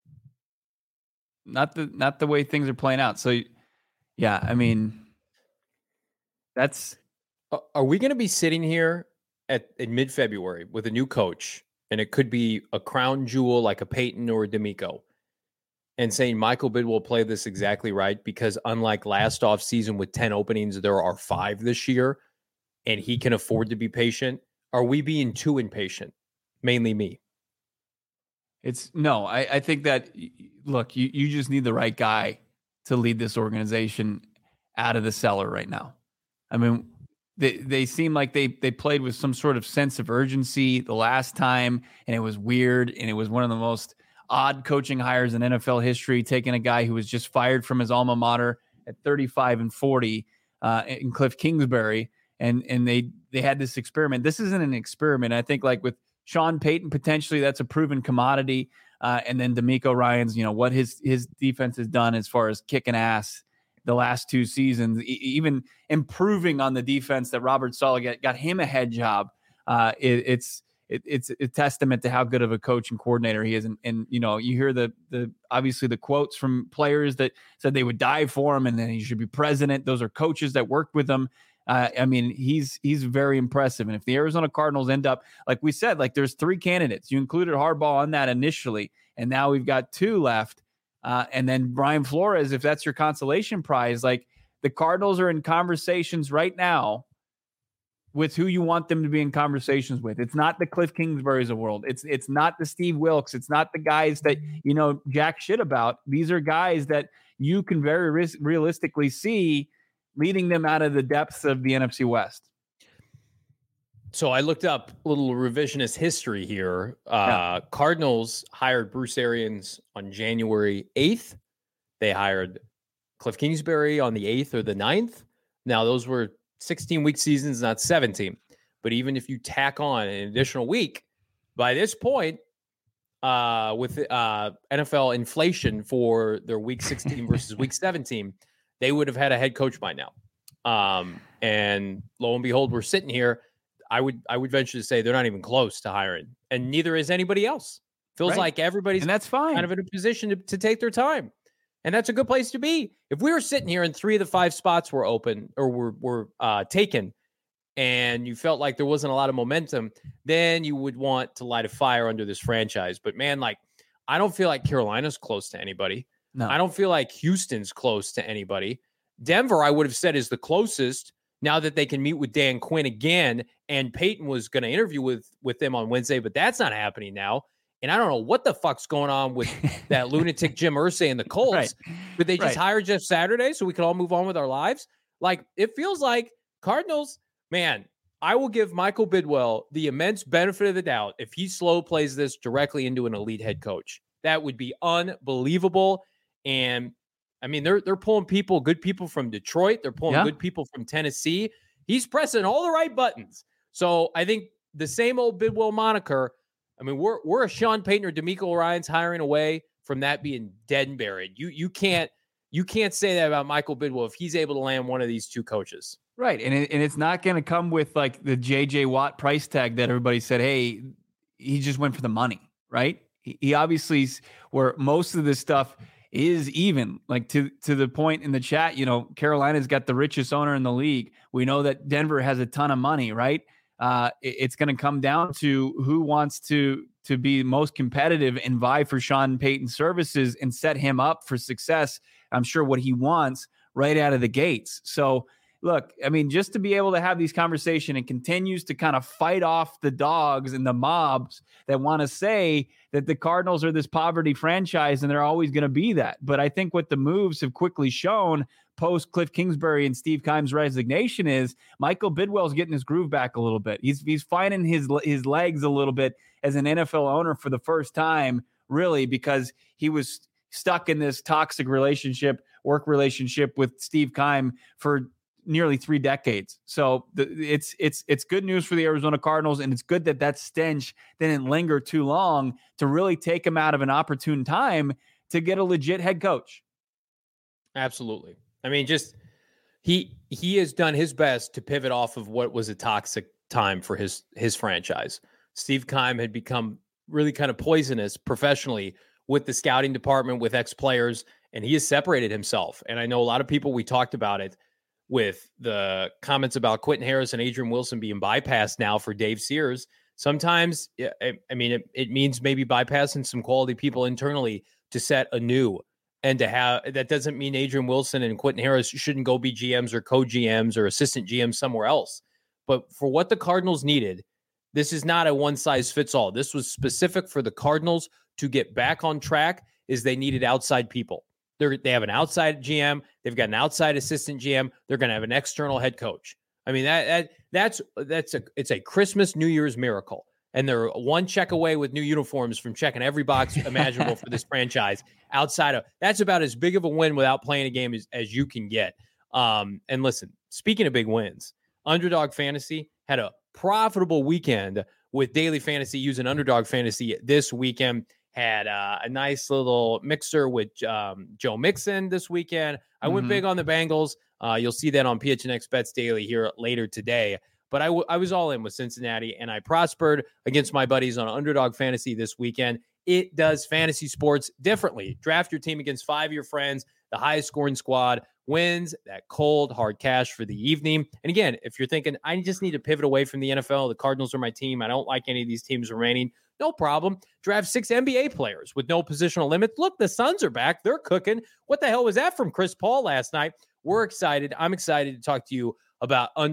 Not the not the way things are playing out. So, yeah, I mean, that's. Are we going to be sitting here at in mid-February with a new coach, and it could be a crown jewel like a Peyton or a DeMeco, and saying Michael Bidwill played this exactly right because unlike last offseason with ten openings, there are five this year, and he can afford to be patient? Are we being too impatient? Mainly me. It's no, I, I think that, look, you, you just need the right guy to lead this organization out of the cellar right now. I mean, they they seem like they they played with some sort of sense of urgency the last time, and it was weird, and it was one of the most odd coaching hires in N F L history, taking a guy who was just fired from his alma mater at thirty-five and forty uh, in Cliff Kingsbury, and and they they had this experiment. This isn't an experiment. I think like with Sean Payton, potentially that's a proven commodity. Uh, and then DeMeco Ryans, you know, what his his defense has done as far as kicking ass the last two seasons, e- even improving on the defense that Robert Saleh got, got him a head job. Uh, it, it's it, it's a testament to how good of a coach and coordinator he is. And, and you know, you hear the the obviously the quotes from players that said they would die for him and then he should be president. Those are coaches that worked with him. Uh, I mean, he's he's very impressive. And if the Arizona Cardinals end up, like we said, like there's three candidates. You included Harbaugh on that initially, and now we've got two left. Uh, and then Brian Flores, if that's your consolation prize, like the Cardinals are in conversations right now with who you want them to be in conversations with. It's not the Cliff Kingsburys of the world. It's it's not the Steve Wilks. It's not the guys that, you know, jack shit about. These are guys that you can very re- realistically see leading them out of the depths of the N F C West. So I looked up a little revisionist history here. Uh, yeah. Cardinals hired Bruce Arians on January eighth. They hired Cliff Kingsbury on the eighth or the ninth. Now, those were sixteen-week seasons, not seventeen. But even if you tack on an additional week, by this point, uh, with uh, N F L inflation for their week sixteen versus week seventeen, they would have had a head coach by now. Um, and lo and behold, we're sitting here. I would I would venture to say they're not even close to hiring, and neither is anybody else. Feels right. like everybody's and that's fine. kind of in a position to, to take their time. And that's a good place to be. If we were sitting here and three of the five spots were open or were, were uh, taken, and you felt like there wasn't a lot of momentum, then you would want to light a fire under this franchise. But man, like, I don't feel like Carolina's close to anybody. No. I don't feel like Houston's close to anybody. Denver, I would have said, is the closest now that they can meet with Dan Quinn again. And Peyton was going to interview with, with them on Wednesday, but that's not happening now. And I don't know what the fuck's going on with that lunatic Jim Irsay and the Colts. Right. But they just right. hired Jeff Saturday so we can all move on with our lives. Like, it feels like Cardinals, man, I will give Michael Bidwell the immense benefit of the doubt if he slow plays this directly into an elite head coach. That would be unbelievable. And I mean, they're they're pulling people, good people from Detroit. They're pulling yeah. good people from Tennessee. He's pressing all the right buttons. So I think the same old Bidwell moniker, I mean, we're we're a Sean Payton or DeMeco Ryans hiring away from that being dead and buried. You you can't you can't say that about Michael Bidwell if he's able to land one of these two coaches. Right, and it, and it's not going to come with like the J J Watt price tag that everybody said, hey, he just went for the money, right? He, he obviously, where most of this stuff is even, like to to the point in the chat, you know, Carolina's got the richest owner in the league. We know that Denver has a ton of money, right? Uh, it, it's going to come down to who wants to to be most competitive and vie for Sean Payton's services and set him up for success. I'm sure what he wants right out of the gates. So look, I mean, just to be able to have these conversations and continues to kind of fight off the dogs and the mobs that want to say that the Cardinals are this poverty franchise and they're always going to be that. But I think what the moves have quickly shown post Cliff Kingsbury and Steve Keim's resignation is Michael Bidwell's getting his groove back a little bit. He's he's finding his his legs a little bit as an N F L owner for the first time, really, because he was stuck in this toxic relationship, work relationship with Steve Keim for nearly three decades. So the, it's it's it's good news for the Arizona Cardinals, and it's good that that stench didn't linger too long to really take him out of an opportune time to get a legit head coach. Absolutely. I mean, just he he has done his best to pivot off of what was a toxic time for his his franchise. Steve Keim had become really kind of poisonous professionally with the scouting department, with ex-players, and he has separated himself. And I know a lot of people, we talked about it with the comments about Quentin Harris and Adrian Wilson being bypassed now for Dave Sears. Sometimes, I, I mean, it, it means maybe bypassing some quality people internally to set anew. And to have, that doesn't mean Adrian Wilson and Quentin Harris shouldn't go be G Ms or co-G Ms or assistant G Ms somewhere else. But for what the Cardinals needed, this is not a one-size-fits-all. This was specific for the Cardinals to get back on track, is they needed outside people. They're, they have an outside G M. They've got an outside assistant G M. They're going to have an external head coach. I mean, that, that that's that's a it's a Christmas, New Year's miracle. And they're one check away with new uniforms from checking every box imaginable for this franchise. Outside of that's about as big of a win without playing a game as, as you can get. Um, and listen, speaking of big wins, Underdog Fantasy had a profitable weekend with daily fantasy using Underdog Fantasy this weekend. Had uh, a nice little mixer with um, Joe Mixon this weekend. I mm-hmm. went big on the Bengals. Uh, you'll see that on P H N X Bets Daily here later today. But I, w- I was all in with Cincinnati, and I prospered against my buddies on Underdog Fantasy this weekend. It does fantasy sports differently. Draft your team against five of your friends. The highest scoring squad wins that cold, hard cash for the evening. And again, if you're thinking, I just need to pivot away from the N F L, the Cardinals are my team, I don't like any of these teams remaining, no problem. Draft six N B A players with no positional limit. Look, the Suns are back. They're cooking. What the hell was that from Chris Paul last night? We're excited. I'm excited to talk to you about Underdog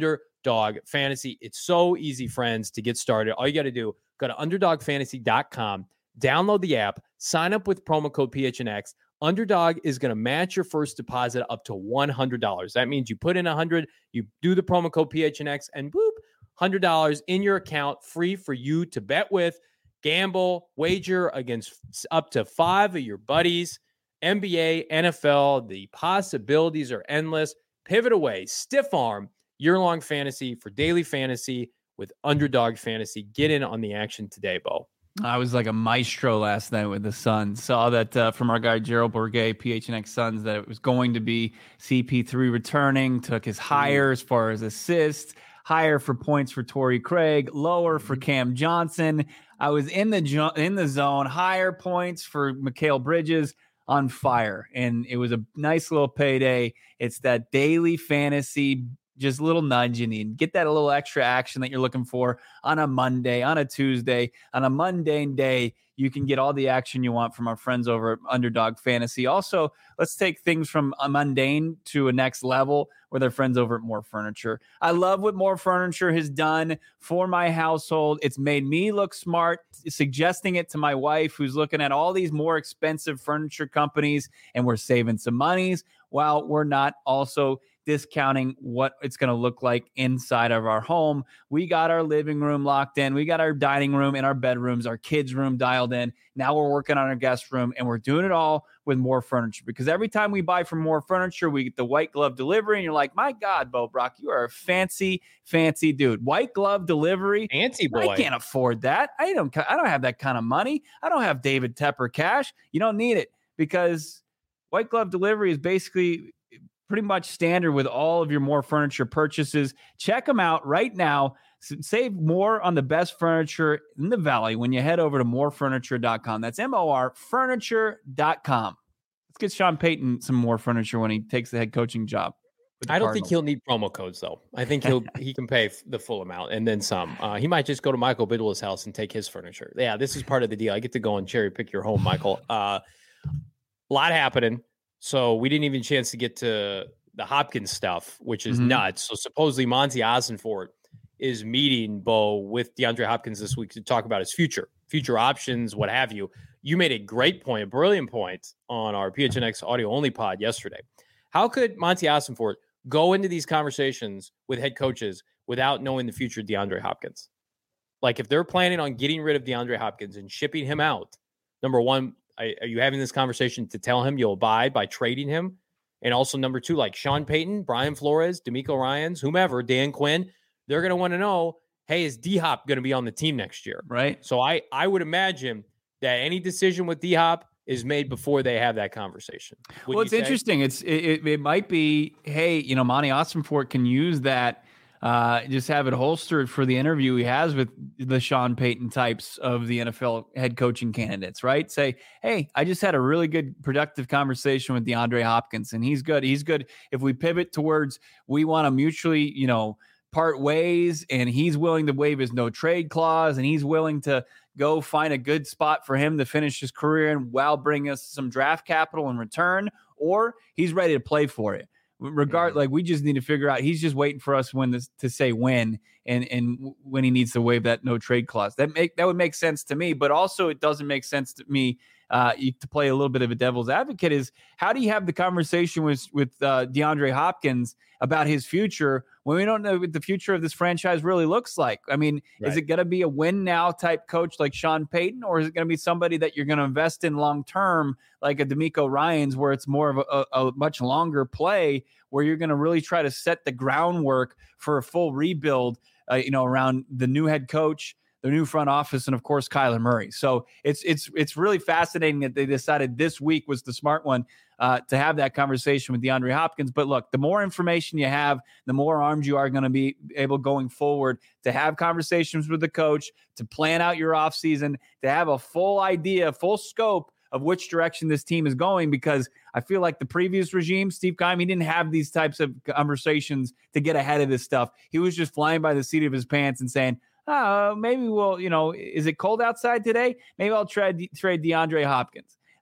Underdog Fantasy. It's so easy, friends, to get started. All you got to do, go to underdog fantasy dot com, download the app, sign up with promo code P H N X. Underdog is going to match your first deposit up to one hundred dollars. That means you put in one hundred dollars, you do the promo code P H N X, and boop, one hundred dollars in your account, free for you to bet with, gamble, wager against up to five of your buddies. N B A, N F L, the possibilities are endless. Pivot away, stiff arm, year-long fantasy for daily fantasy with Underdog Fantasy. Get in on the action today, Bo. I was like a maestro last night with the Suns. Saw that uh, from our guy Gerald Bourguet, P H N X Suns, that it was going to be C P three returning. Took his higher as far as assists, higher for points for Torrey Craig, lower for Cam Johnson. I was in the jo- in the zone, higher points for Mikal Bridges, on fire, and it was a nice little payday. It's that daily fantasy, just a little nudge you need. Get that a little extra action that you're looking for on a Monday, on a Tuesday, on a mundane day. You can get all the action you want from our friends over at Underdog Fantasy. Also, let's take things from a mundane to a next level with our friends over at More Furniture. I love what More Furniture has done for my household. It's made me look smart, suggesting it to my wife, who's looking at all these more expensive furniture companies, and we're saving some monies while we're not also discounting what it's going to look like inside of our home. We got our living room locked in. We got our dining room and our bedrooms, our kids' room dialed in. Now we're working on our guest room, and we're doing it all with More Furniture, because every time we buy from More Furniture, we get the white glove delivery, and you're like, my God, Bo Brock, you are a fancy, fancy dude. White glove delivery. Fancy boy. I can't afford that. I don't, I don't have that kind of money. I don't have David Tepper cash. You don't need it, because white glove delivery is basically pretty much standard with all of your More Furniture purchases. Check them out right now. Save more on the best furniture in the Valley when you head over to more furniture dot com. That's M O R furniture dot com. Let's get Sean Payton some more furniture when he takes the head coaching job. I don't think he'll need promo codes, though. I think he'll he can pay the full amount and then some. Uh, he might just go to Michael Bidwell's house and take his furniture. Yeah, this is part of the deal. I get to go and cherry pick your home, Michael. Uh, a lot happening. So we didn't even chance to get to the Hopkins stuff, which is mm-hmm. nuts. So supposedly Monty Ossenfort is meeting Bo with DeAndre Hopkins this week to talk about his future, future options, what have you. You made a great point, a brilliant point on our P H N X audio only pod yesterday. How could Monty Ossenfort go into these conversations with head coaches without knowing the future of DeAndre Hopkins? Like, if they're planning on getting rid of DeAndre Hopkins and shipping him out, number one, are you having this conversation to tell him you'll abide by trading him? And also, number two, like Sean Payton, Brian Flores, D'Amico Ryans, whomever, Dan Quinn, they're going to want to know, hey, is D-Hop going to be on the team next year? Right. So I, I would imagine that any decision with D-Hop is made before they have that conversation. Well, it's interesting. It's it, it, it might be, hey, you know, Monty Ossenfort can use that. Uh, just have it holstered for the interview he has with the Sean Payton types of the N F L head coaching candidates, right? Say, hey, I just had a really good, productive conversation with DeAndre Hopkins, and he's good. He's good. If we pivot towards we want to mutually, you know, part ways, and he's willing to waive his no trade clause, and he's willing to go find a good spot for him to finish his career in while bringing us some draft capital in return, or he's ready to play for it. Regard like we just need to figure out. He's just waiting for us when this to say when and and when he needs to waive that no trade clause. That make that would make sense to me, but also it doesn't make sense to me. Uh, you, to play a little bit of a devil's advocate is how do you have the conversation with with uh, DeAndre Hopkins about his future when we don't know what the future of this franchise really looks like? I mean, right. Is it going to be a win now type coach like Sean Payton, or is it going to be somebody that you're going to invest in long term like a D'Amico Ryans, where it's more of a, a, a much longer play where you're going to really try to set the groundwork for a full rebuild, uh, you know, around the new head coach, the new front office, and of course Kyler Murray. So it's it's it's really fascinating that they decided this week was the smart one uh, to have that conversation with DeAndre Hopkins. But look, the more information you have, the more armed you are going to be able going forward to have conversations with the coach, to plan out your offseason, to have a full idea, full scope of which direction this team is going, because I feel like the previous regime, Steve Keim, he didn't have these types of conversations to get ahead of this stuff. He was just flying by the seat of his pants and saying, oh, maybe we'll, you know, is it cold outside today? Maybe I'll trade, trade DeAndre Hopkins.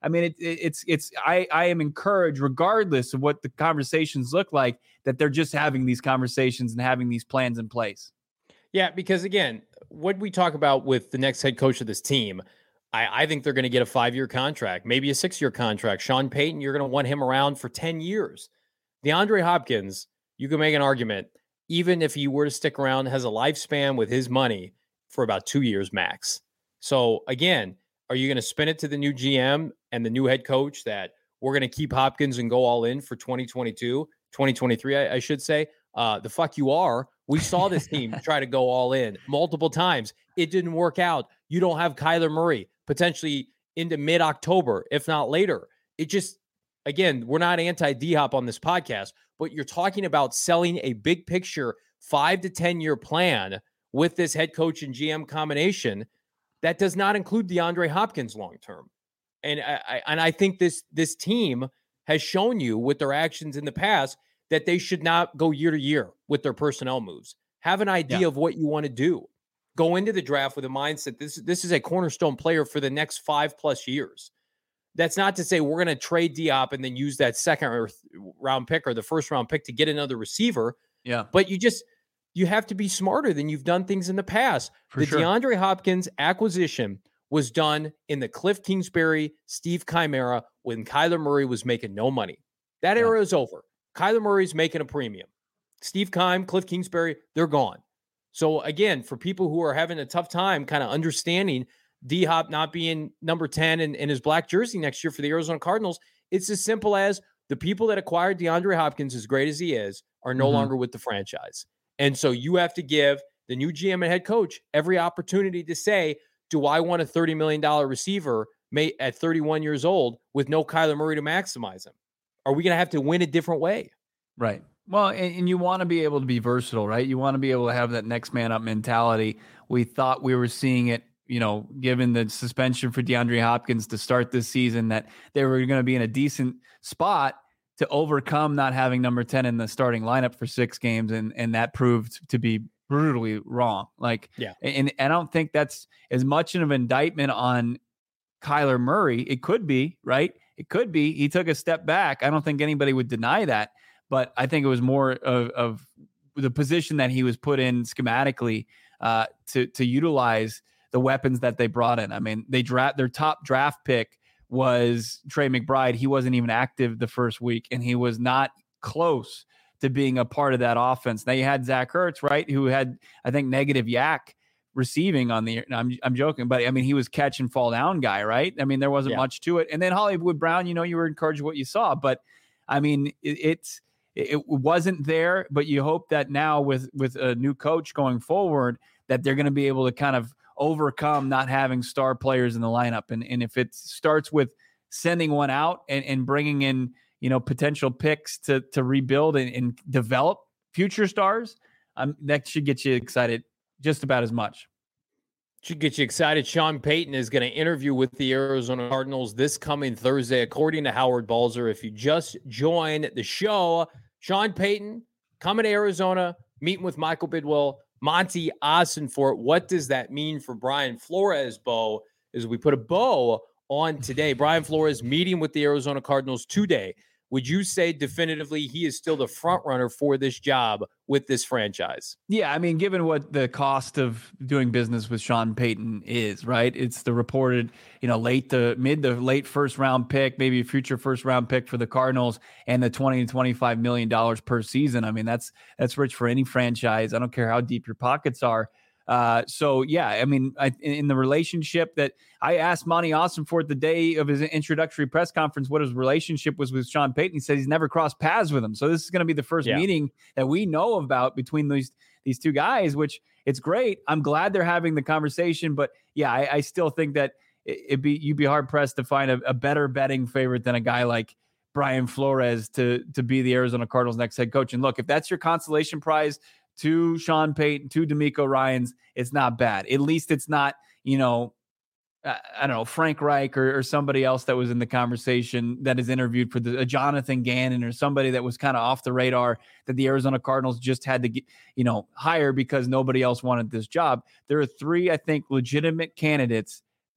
I mean, it, it, it's it's I I am encouraged, regardless of what the conversations look like, that they're just having these conversations and having these plans in place. Yeah, because again, what we talk about with the next head coach of this team, I, I think they're going to get a five-year contract, maybe a six-year contract. Sean Payton, you're going to want him around for ten years. DeAndre Hopkins, you can make an argument, even if he were to stick around, has a lifespan with his money for about two years max. So again, are you going to spin it to the new G M and the new head coach that we're going to keep Hopkins and go all in for twenty twenty-two, twenty twenty-three, I, I should say? Uh, the fuck you are. We saw this team try to go all in multiple times. It didn't work out. You don't have Kyler Murray potentially into mid-October, if not later. It just, again, we're not anti-D-Hop on this podcast, but you're talking about selling a big picture five to ten-year plan with this head coach and G M combination that does not include DeAndre Hopkins long-term. And I, I and I think this this team has shown you with their actions in the past that they should not go year to year with their personnel moves. Have an idea yeah. of what you want to do. Go into the draft with a mindset. This, this is a cornerstone player for the next five plus years. That's not to say we're going to trade Diop and then use that second or th- round pick or the first round pick to get another receiver. Yeah. But you just, you have to be smarter than you've done things in the past. For the sure. DeAndre Hopkins acquisition was done in the Cliff Kingsbury, Steve Chimera when Kyler Murray was making no money. That yeah. era is over. Kyler Murray's making a premium. Steve Keim, Cliff Kingsbury, they're gone. So again, for people who are having a tough time kind of understanding D-Hop not being number ten in, in his black jersey next year for the Arizona Cardinals, it's as simple as the people that acquired DeAndre Hopkins, as great as he is, are no mm-hmm. longer with the franchise. And so you have to give the new G M and head coach every opportunity to say, do I want a thirty million dollars receiver may, at thirty-one years old with no Kyler Murray to maximize him? Are we going to have to win a different way? Right. Well, and, and you want to be able to be versatile, right? You want to be able to have that next man up mentality. We thought we were seeing it, you know, given the suspension for DeAndre Hopkins to start this season, that they were going to be in a decent spot to overcome not having number ten in the starting lineup for six games. And, and that proved to be brutally wrong. Like, yeah. And, and I don't think that's as much of an indictment on Kyler Murray. It could be, right? It could be. He took a step back. I don't think anybody would deny that. But I think it was more of, of the position that he was put in schematically uh, to to utilize the weapons that they brought in. I mean, they draft their top draft pick was Trey McBride. He wasn't even active the first week, and he was not close to being a part of that offense. Now you had Zach Ertz, right, who had, I think, negative yak receiving on the. I'm I'm joking, but I mean, he was catch and fall down guy, right? I mean, there wasn't yeah. much to it. And then Hollywood Brown, you know, you were encouraged with what you saw, but I mean, it, it's. It wasn't there, but you hope that now with, with a new coach going forward, that they're going to be able to kind of overcome not having star players in the lineup. And, and if it starts with sending one out and, and bringing in, you know, potential picks to, to rebuild and, and develop future stars, um, that should get you excited just about as much. Should get you excited. Sean Payton is going to interview with the Arizona Cardinals this coming Thursday, according to Howard Balzer. If you just joined the show, Sean Payton coming to Arizona, meeting with Michael Bidwell, Monty Ossenfort. What does that mean for Brian Flores, Bo, as we put a bow on today? Brian Flores meeting with the Arizona Cardinals today. Would you say definitively he is still the front runner for this job with this franchise? Yeah, I mean, given what the cost of doing business with Sean Payton is, right? It's the reported, you know, late to mid to late first round pick, maybe a future first round pick for the Cardinals, and the twenty to twenty-five million dollars per season. I mean, that's that's rich for any franchise. I don't care how deep your pockets are. Uh, so yeah, I mean, I, in the relationship that I asked Monty Ossenfort the day of his introductory press conference, what his relationship was with Sean Payton. He said he's never crossed paths with him. So this is going to be the first yeah. meeting that we know about between these, these two guys, which it's great. I'm glad they're having the conversation, but yeah, I, I still think that it, it'd be, you'd be hard pressed to find a, a better betting favorite than a guy like Brian Flores to, to be the Arizona Cardinals next head coach. And look, if that's your consolation prize to Sean Payton, to DeMeco Ryans, it's not bad. At least it's not, you know, I, I don't know, Frank Reich or, or somebody else that was in the conversation that is interviewed for the uh, Jonathan Gannon or somebody that was kind of off the radar that the Arizona Cardinals just had to get, you know, hire because nobody else wanted this job. There are three, I think, legitimate candidates that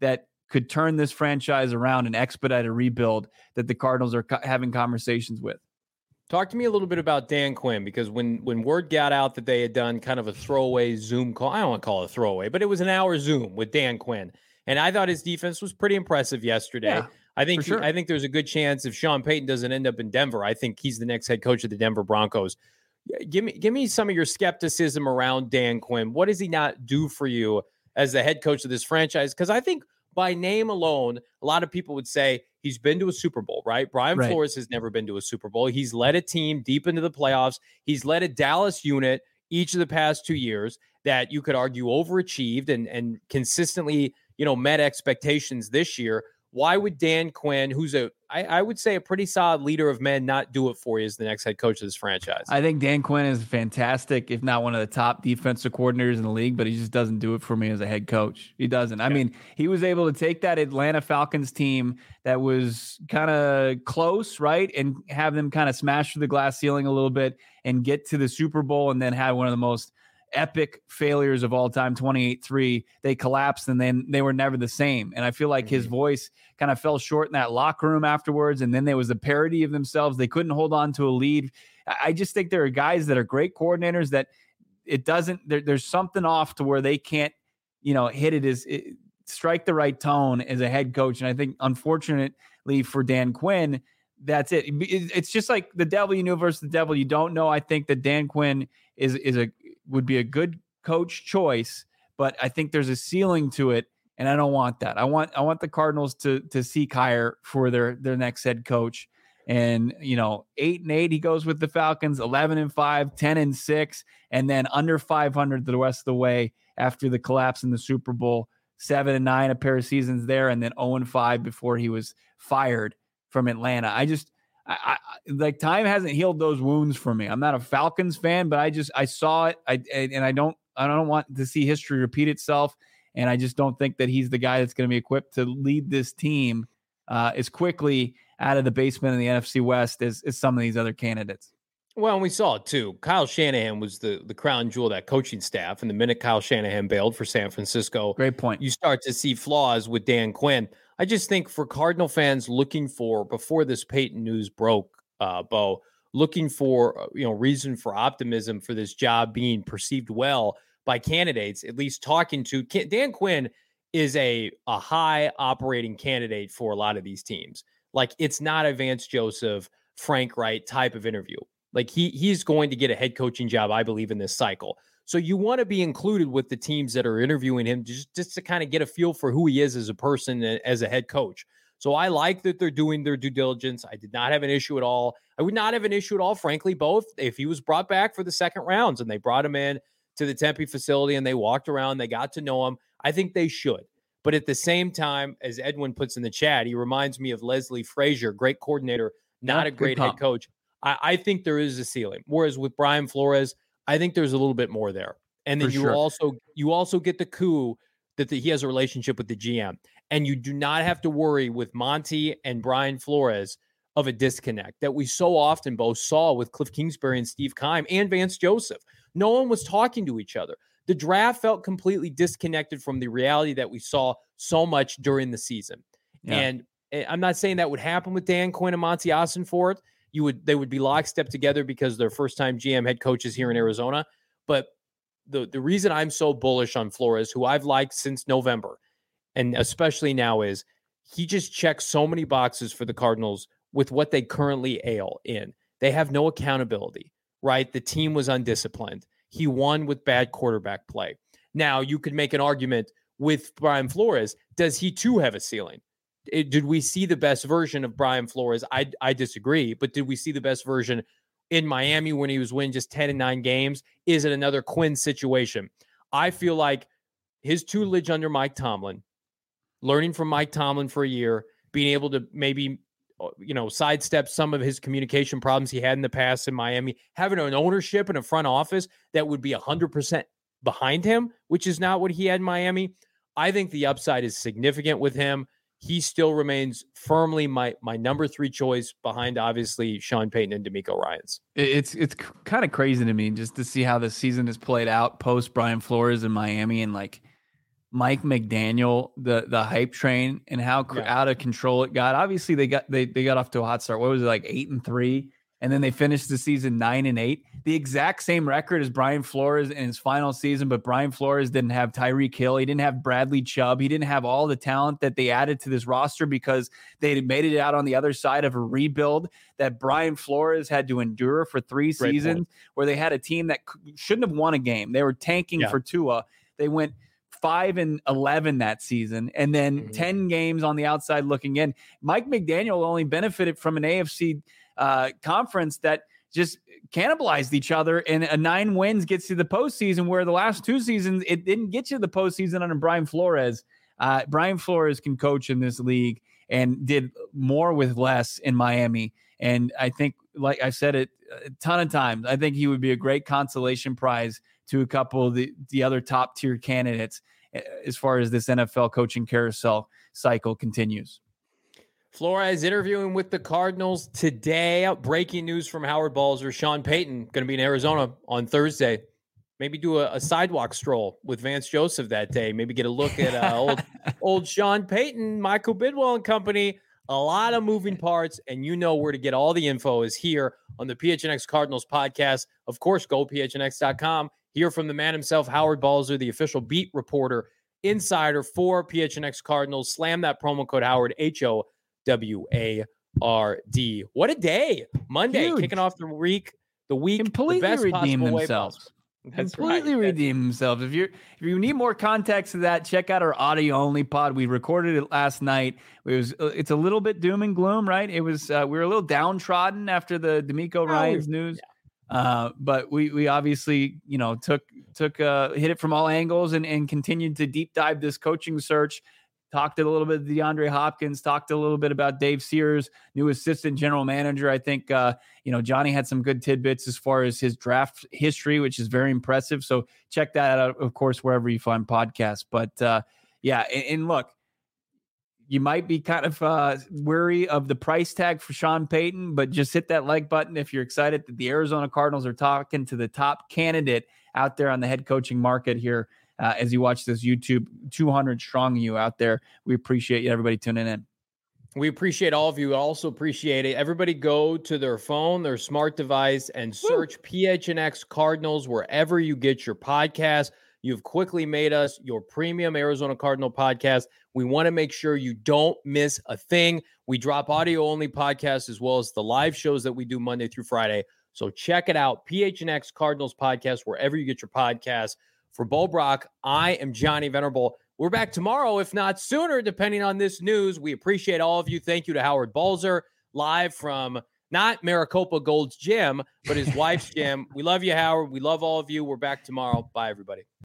could turn this franchise around and expedite a rebuild that the Cardinals are co- having conversations with. Talk to me a little bit about Dan Quinn, because when when word got out that they had done kind of a throwaway Zoom call, I don't want to call it a throwaway, but it was an hour Zoom with Dan Quinn, and I thought his defense was pretty impressive yesterday. Yeah, I think sure. I think there's a good chance if Sean Payton doesn't end up in Denver, I think he's the next head coach of the Denver Broncos. Give me give me some of your skepticism around Dan Quinn. What does he not do for you as the head coach of this franchise? Because I think by name alone, a lot of people would say he's been to a Super Bowl, right? Brian Right. Flores has never been to a Super Bowl. He's led a team deep into the playoffs. He's led a Dallas unit each of the past two years that you could argue overachieved and, and consistently, you know, met expectations this year. Why would Dan Quinn, who's a, I, I would say a pretty solid leader of men, not do it for you as the next head coach of this franchise? I think Dan Quinn is fantastic, if not one of the top defensive coordinators in the league, but he just doesn't do it for me as a head coach. He doesn't. I mean, he was able to take that Atlanta Falcons team that was kind of close, right, and have them kind of smash through the glass ceiling a little bit and get to the Super Bowl, and then have one of the most epic failures of all time, twenty-eight three. They collapsed, and then they were never the same. And I feel like mm-hmm. his voice kind of fell short in that locker room afterwards. And then there was a parody of themselves. They couldn't hold on to a lead. I just think there are guys that are great coordinators that it doesn't, there, there's something off to where they can't, you know, hit it as it, strike the right tone as a head coach. And I think, unfortunately for Dan Quinn, that's it. it it's just like the devil you know versus the devil you don't know. I think that Dan Quinn is is a would be a good coach choice, but I think there's a ceiling to it, and I don't want that. I want I want the Cardinals to to seek higher for their their next head coach. And you know, eight and eight, he goes with the Falcons, eleven and five, ten and six, and then under five hundred the rest of the way after the collapse in the Super Bowl. Seven and nine, a pair of seasons there, and then zero and five before he was fired from Atlanta. I just, I, I like time hasn't healed those wounds for me. I'm not a Falcons fan, but I just, I saw it. I, and I don't, I don't want to see history repeat itself. And I just don't think that he's the guy that's going to be equipped to lead this team uh, as quickly out of the basement in the N F C West as, as some of these other candidates. Well, and we saw it too. Kyle Shanahan was the, the crown jewel of that coaching staff. And the minute Kyle Shanahan bailed for San Francisco, great point, you start to see flaws with Dan Quinn. I just think for Cardinal fans looking for, before this Peyton news broke, uh, Bo, looking for, you know, reason for optimism for this job being perceived well by candidates, at least talking to Dan Quinn is a, a high operating candidate for a lot of these teams. Like, it's not a Vance Joseph, Frank Wright type of interview. Like he he's going to get a head coaching job, I believe, in this cycle. So you want to be included with the teams that are interviewing him just, just to kind of get a feel for who he is as a person, as a head coach. So I like that they're doing their due diligence. I did not have an issue at all. I would not have an issue at all, frankly, both if he was brought back for the second rounds and they brought him in to the Tempe facility and they walked around, they got to know him. I think they should. But at the same time, as Edwin puts in the chat, he reminds me of Leslie Frazier, great coordinator, not yeah, a great head coach. I, I think there is a ceiling. Whereas with Brian Flores, I think there's a little bit more there. And then For you sure. also you also get the coup that the, he has a relationship with the G M. And you do not have to worry with Monty and Brian Flores of a disconnect that we so often both saw with Cliff Kingsbury and Steve Keim and Vance Joseph. No one was talking to each other. The draft felt completely disconnected from the reality that we saw so much during the season. Yeah. And I'm not saying that would happen with Dan Quinn and Monty Ossenfort. You would they would be lockstep together because they're first-time G M head coaches here in Arizona. But the, the reason I'm so bullish on Flores, who I've liked since November, and especially now, is he just checks so many boxes for the Cardinals with what they currently ail in. They have no accountability, right? The team was undisciplined. He won with bad quarterback play. Now, you could make an argument with Brian Flores. Does he too have a ceiling? It, did we see the best version of Brian Flores? I I disagree, but did we see the best version in Miami when he was winning just ten and nine games? Is it another Quinn situation? I feel like his tutelage under Mike Tomlin, learning from Mike Tomlin for a year, being able to maybe, you know, sidestep some of his communication problems he had in the past in Miami, having an ownership and a front office that would be one hundred percent behind him, which is not what he had in Miami. I think the upside is significant with him. He still remains firmly my my number three choice behind, obviously, Sean Payton and DeMeco Ryans. It's it's kind of crazy to me just to see how the season has played out post Brian Flores in Miami, and like Mike McDaniel, the the hype train, and how yeah. out of control it got. Obviously, they got they they got off to a hot start. What was it, like eight and three, and then they finished the season nine and eight. The exact same record as Brian Flores in his final season, but Brian Flores didn't have Tyreek Hill. He didn't have Bradley Chubb. He didn't have all the talent that they added to this roster because they had made it out on the other side of a rebuild that Brian Flores had to endure for three Great seasons, point. Where they had a team that shouldn't have won a game. They were tanking yeah. for Tua. They went five and eleven that season, and then mm-hmm. ten games on the outside looking in. Mike McDaniel only benefited from an A F C uh, conference that just cannibalized each other, and a nine wins gets you the postseason, where the last two seasons it didn't get you the postseason under Brian Flores. Uh, Brian Flores can coach in this league and did more with less in Miami. And I think, like I said it a ton of times, I think he would be a great consolation prize to a couple of the, the other top tier candidates as far as this N F L coaching carousel cycle continues. Flores interviewing with the Cardinals today. Breaking news from Howard Balzer. Sean Payton going to be in Arizona on Thursday. Maybe do a, a sidewalk stroll with Vance Joseph that day. Maybe get a look at uh, old old Sean Payton, Michael Bidwell and company. A lot of moving parts, and you know where to get all the info is here on the P H N X Cardinals podcast. Of course, go P H N X dot com. Hear from the man himself, Howard Balzer, the official beat reporter, insider for P H N X Cardinals. Slam that promo code Howard, H O W A R D. What a day. Monday, Huge. Kicking off the week, the week, completely the best redeem possible themselves. Way That's completely right. redeem themselves. If you if you need more context to that, check out our audio only pod. We recorded it last night. It was it's a little bit doom and gloom, right? It was uh, we were a little downtrodden after the D'Amico Ryans oh, news. Yeah. Uh, but we we obviously, you know, took took uh, hit it from all angles and and continued to deep dive this coaching search. Talked a little bit of DeAndre Hopkins, talked a little bit about Dave Sears, new assistant general manager. I think, uh, you know, Johnny had some good tidbits as far as his draft history, which is very impressive. So check that out, of course, wherever you find podcasts. But uh, yeah, and, and look, you might be kind of uh, weary of the price tag for Sean Payton, but just hit that like button if you're excited that the Arizona Cardinals are talking to the top candidate out there on the head coaching market here. Uh, as you watch this YouTube, two hundred strong you out there. We appreciate you, everybody tuning in. We appreciate all of you. We also appreciate it. Everybody go to their phone, their smart device, and search Woo. P H N X Cardinals wherever you get your podcast. You've quickly made us your premium Arizona Cardinal podcast. We want to make sure you don't miss a thing. We drop audio-only podcasts as well as the live shows that we do Monday through Friday. So check it out, P H N X Cardinals podcast, wherever you get your podcasts. For Bo Brock, I am Johnny Venerable. We're back tomorrow, if not sooner, depending on this news. We appreciate all of you. Thank you to Howard Balzer, live from not Maricopa Gold's gym, but his wife's gym. We love you, Howard. We love all of you. We're back tomorrow. Bye, everybody.